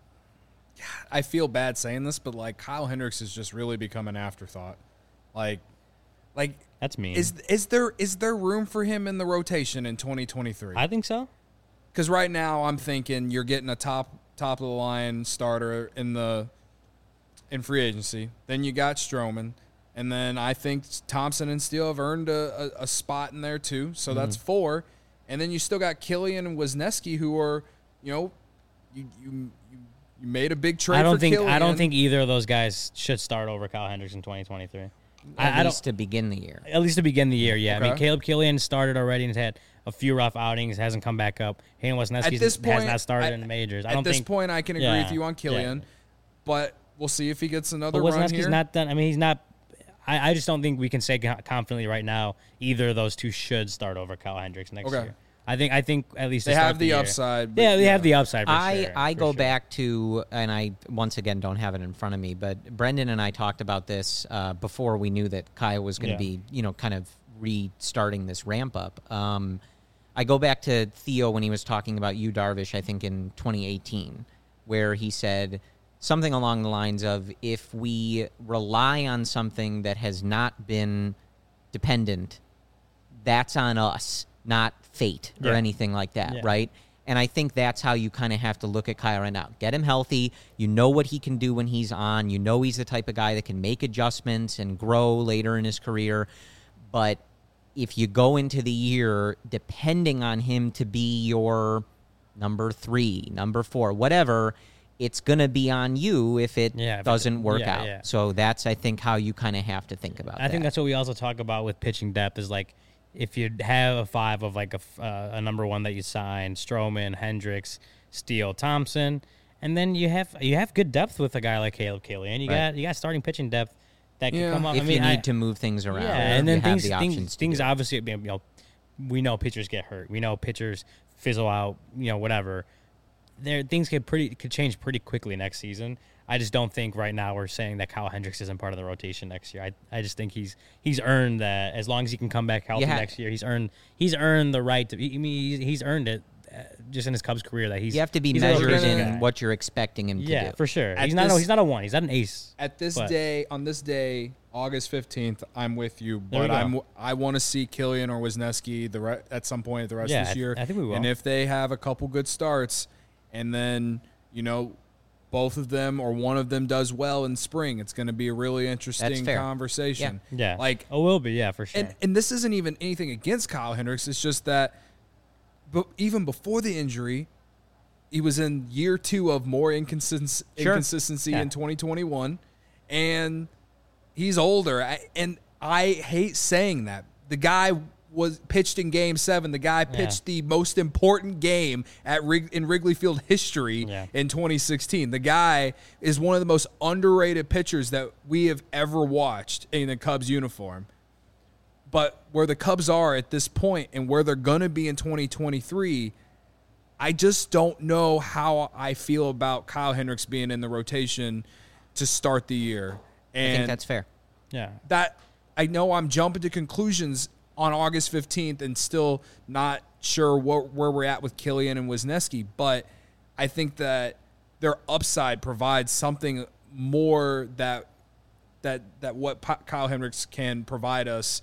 – I feel bad saying this, but, like, Kyle Hendricks has just really become an afterthought. Like, like That's mean. is is there is there room for him in the rotation in twenty twenty-three? I think so. Because right now I'm thinking you're getting a top top of the line starter in the in free agency. Then you got Stroman. And then I think Thompson and Steele have earned a, a, a spot in there too. So mm-hmm. that's four. And then you still got Killian and Wesneski, who are, you know, you you you, you made a big trade. I don't for think Killian. I don't think either of those guys should start over Kyle Hendricks in twenty twenty-three. At I, least I to begin the year. At least to begin the year, yeah. Okay. I mean, Caleb Killian started already and has had a few rough outings, hasn't come back up. Hayden Wesneski has point, not started I, in the majors. I at don't this think, point, I can agree yeah, with you on Killian, yeah. but we'll see if he gets another but run Wesneski's here. not done. I mean, he's not. I, I just don't think we can say confidently right now either of those two should start over Kyle Hendricks next Okay. year. I think I think at least they to start have the, year, upside. But Yeah, they yeah. have the upside. For I, sure, I for go sure. back to, and I once again don't have it in front of me, but Brendan and I talked about this uh, before we knew that Kyle was going to Yeah. be, you know, kind of restarting this ramp up. Um, I go back to Theo when he was talking about Yu Darvish, I think in twenty eighteen, where he said something along the lines of, if we rely on something that has not been dependent, that's on us, not fate or Yeah. anything like that, Yeah. right? And I think that's how you kind of have to look at Kyle right now. Get him healthy. You know what he can do when he's on. You know he's the type of guy that can make adjustments and grow later in his career. But if you go into the year depending on him to be your number three, number four, whatever, it's going to be on you if it Yeah, if it- doesn't work yeah, out. yeah. So that's, I think, how you kind of have to think about I that. think that's what we also talk about with pitching depth is like if you have a five of like a, f- uh, a number one that you sign, Stroman, Hendricks, Steele, Thompson, and then you have you have good depth with a guy like Caleb Killian. You Right. got you got starting pitching depth that can Yeah. come up. if I mean, you need I, to move things around, yeah, and then you things have the options things, to things do it. obviously you know we know pitchers get hurt. We know pitchers fizzle out. You know whatever. There things could pretty could change pretty quickly next season. I just don't think right now we're saying that Kyle Hendricks isn't part of the rotation next year. I, I just think he's he's earned that as long as he can come back healthy Yeah. next year. He's earned he's earned the right to. I mean, he's, he's earned it uh, just in his Cubs career that he's. You have to be he's a measured rotation in guy. what you're expecting him to Yeah, do. for sure. At He's not. this- a, he's not a one. He's not an ace. At this But- day, on this day, August fifteenth, I'm with you, There we but go. I'm I want to see Killian or Wisniewski the re- at some point the rest Yeah, of I this th- year. I think we will. And if they have a couple good starts, and then you know, both of them or one of them does well in spring, it's going to be a really interesting fair. conversation. Yeah. like Oh, will be. Yeah, for sure. and and this isn't even anything against Kyle Hendricks. It's just that, but even before the injury, he was in year two of more inconsist- Sure. inconsistency Yeah. in twenty twenty-one, and he's older. I, and I hate saying that. The guy was pitched in Game Seven. The guy pitched the most important game at Rig- in Wrigley Field history Yeah. in twenty sixteen. The guy is one of the most underrated pitchers that we have ever watched in a Cubs uniform. But where the Cubs are at this point and where they're going to be in twenty twenty-three, I just don't know how I feel about Kyle Hendricks being in the rotation to start the year. And I think that's fair. yeah. that I know I'm jumping to conclusions on August fifteenth and still not sure what, where we're at with Killian and Wisniewski, but I think that their upside provides something more that that that what Pa- Kyle Hendricks can provide us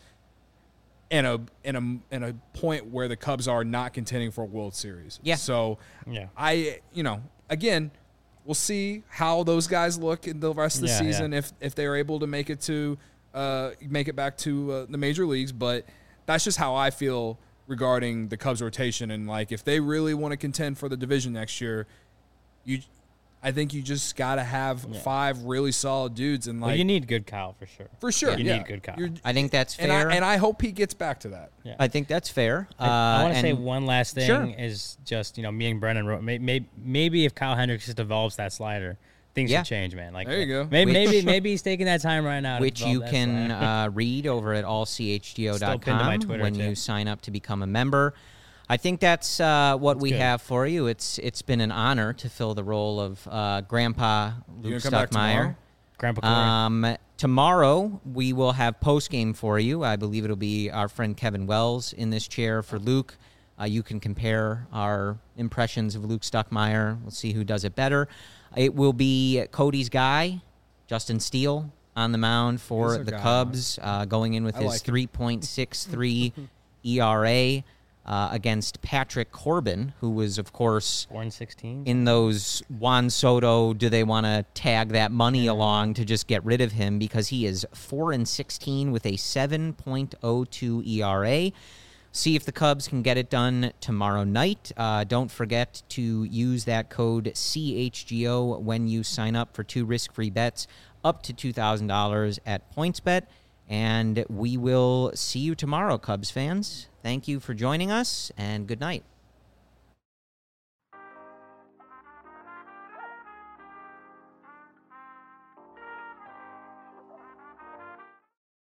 in a in a in a point where the Cubs are not contending for a World Series. Yeah. So Yeah. I you know again we'll see how those guys look in the rest of the Yeah, season yeah. if if they're able to make it to uh, make it back to uh, the major leagues. But that's just how I feel regarding the Cubs rotation. And, like, if they really want to contend for the division next year, you, I think you just got to have Yeah. five really solid dudes. And, like, Well, you need good Kyle for sure. for sure, You yeah. need good Kyle. You're- I think that's and fair. I, and I hope he gets back to that. Yeah. I think that's fair. I, I want Uh, to say and- one last thing Sure. is just, you know, me and Brennan wrote, may, may, maybe if Kyle Hendricks just develops that slider, things Yeah. should change, man. Like, There you go. Maybe, Which- maybe, maybe he's taking that time right now. to which develop you that can slider. uh, read over at all c h g o dot Still pinned to my com Twitter, when too. you sign up to become a member. I think that's uh, what we good. have for you. It's It's been an honor to fill the role of uh, Grandpa You Luke gonna come back Stuckmeyer. tomorrow? Grandpa Corey. Um, tomorrow we will have post game for you. I believe it'll be our friend Kevin Wells in this chair for Luke. Uh, you can compare our impressions of Luke Stuckmeyer. We'll see who does it better. It will be Cody's guy, Justin Steele, on the mound for He's our the guy. Cubs, uh, going in with I his like him. three point six three E R A uh, against Patrick Corbin, who was, of course, Four and sixteen. in those Juan Soto, do they want to tag that money along to just get rid of him, because he is four and sixteen with a seven point oh two E R A. See if the Cubs can get it done tomorrow night. Uh, don't forget to use that code C H G O when you sign up for two risk-free bets up to two thousand dollars at PointsBet. And we will see you tomorrow, Cubs fans. Thank you for joining us, and good night.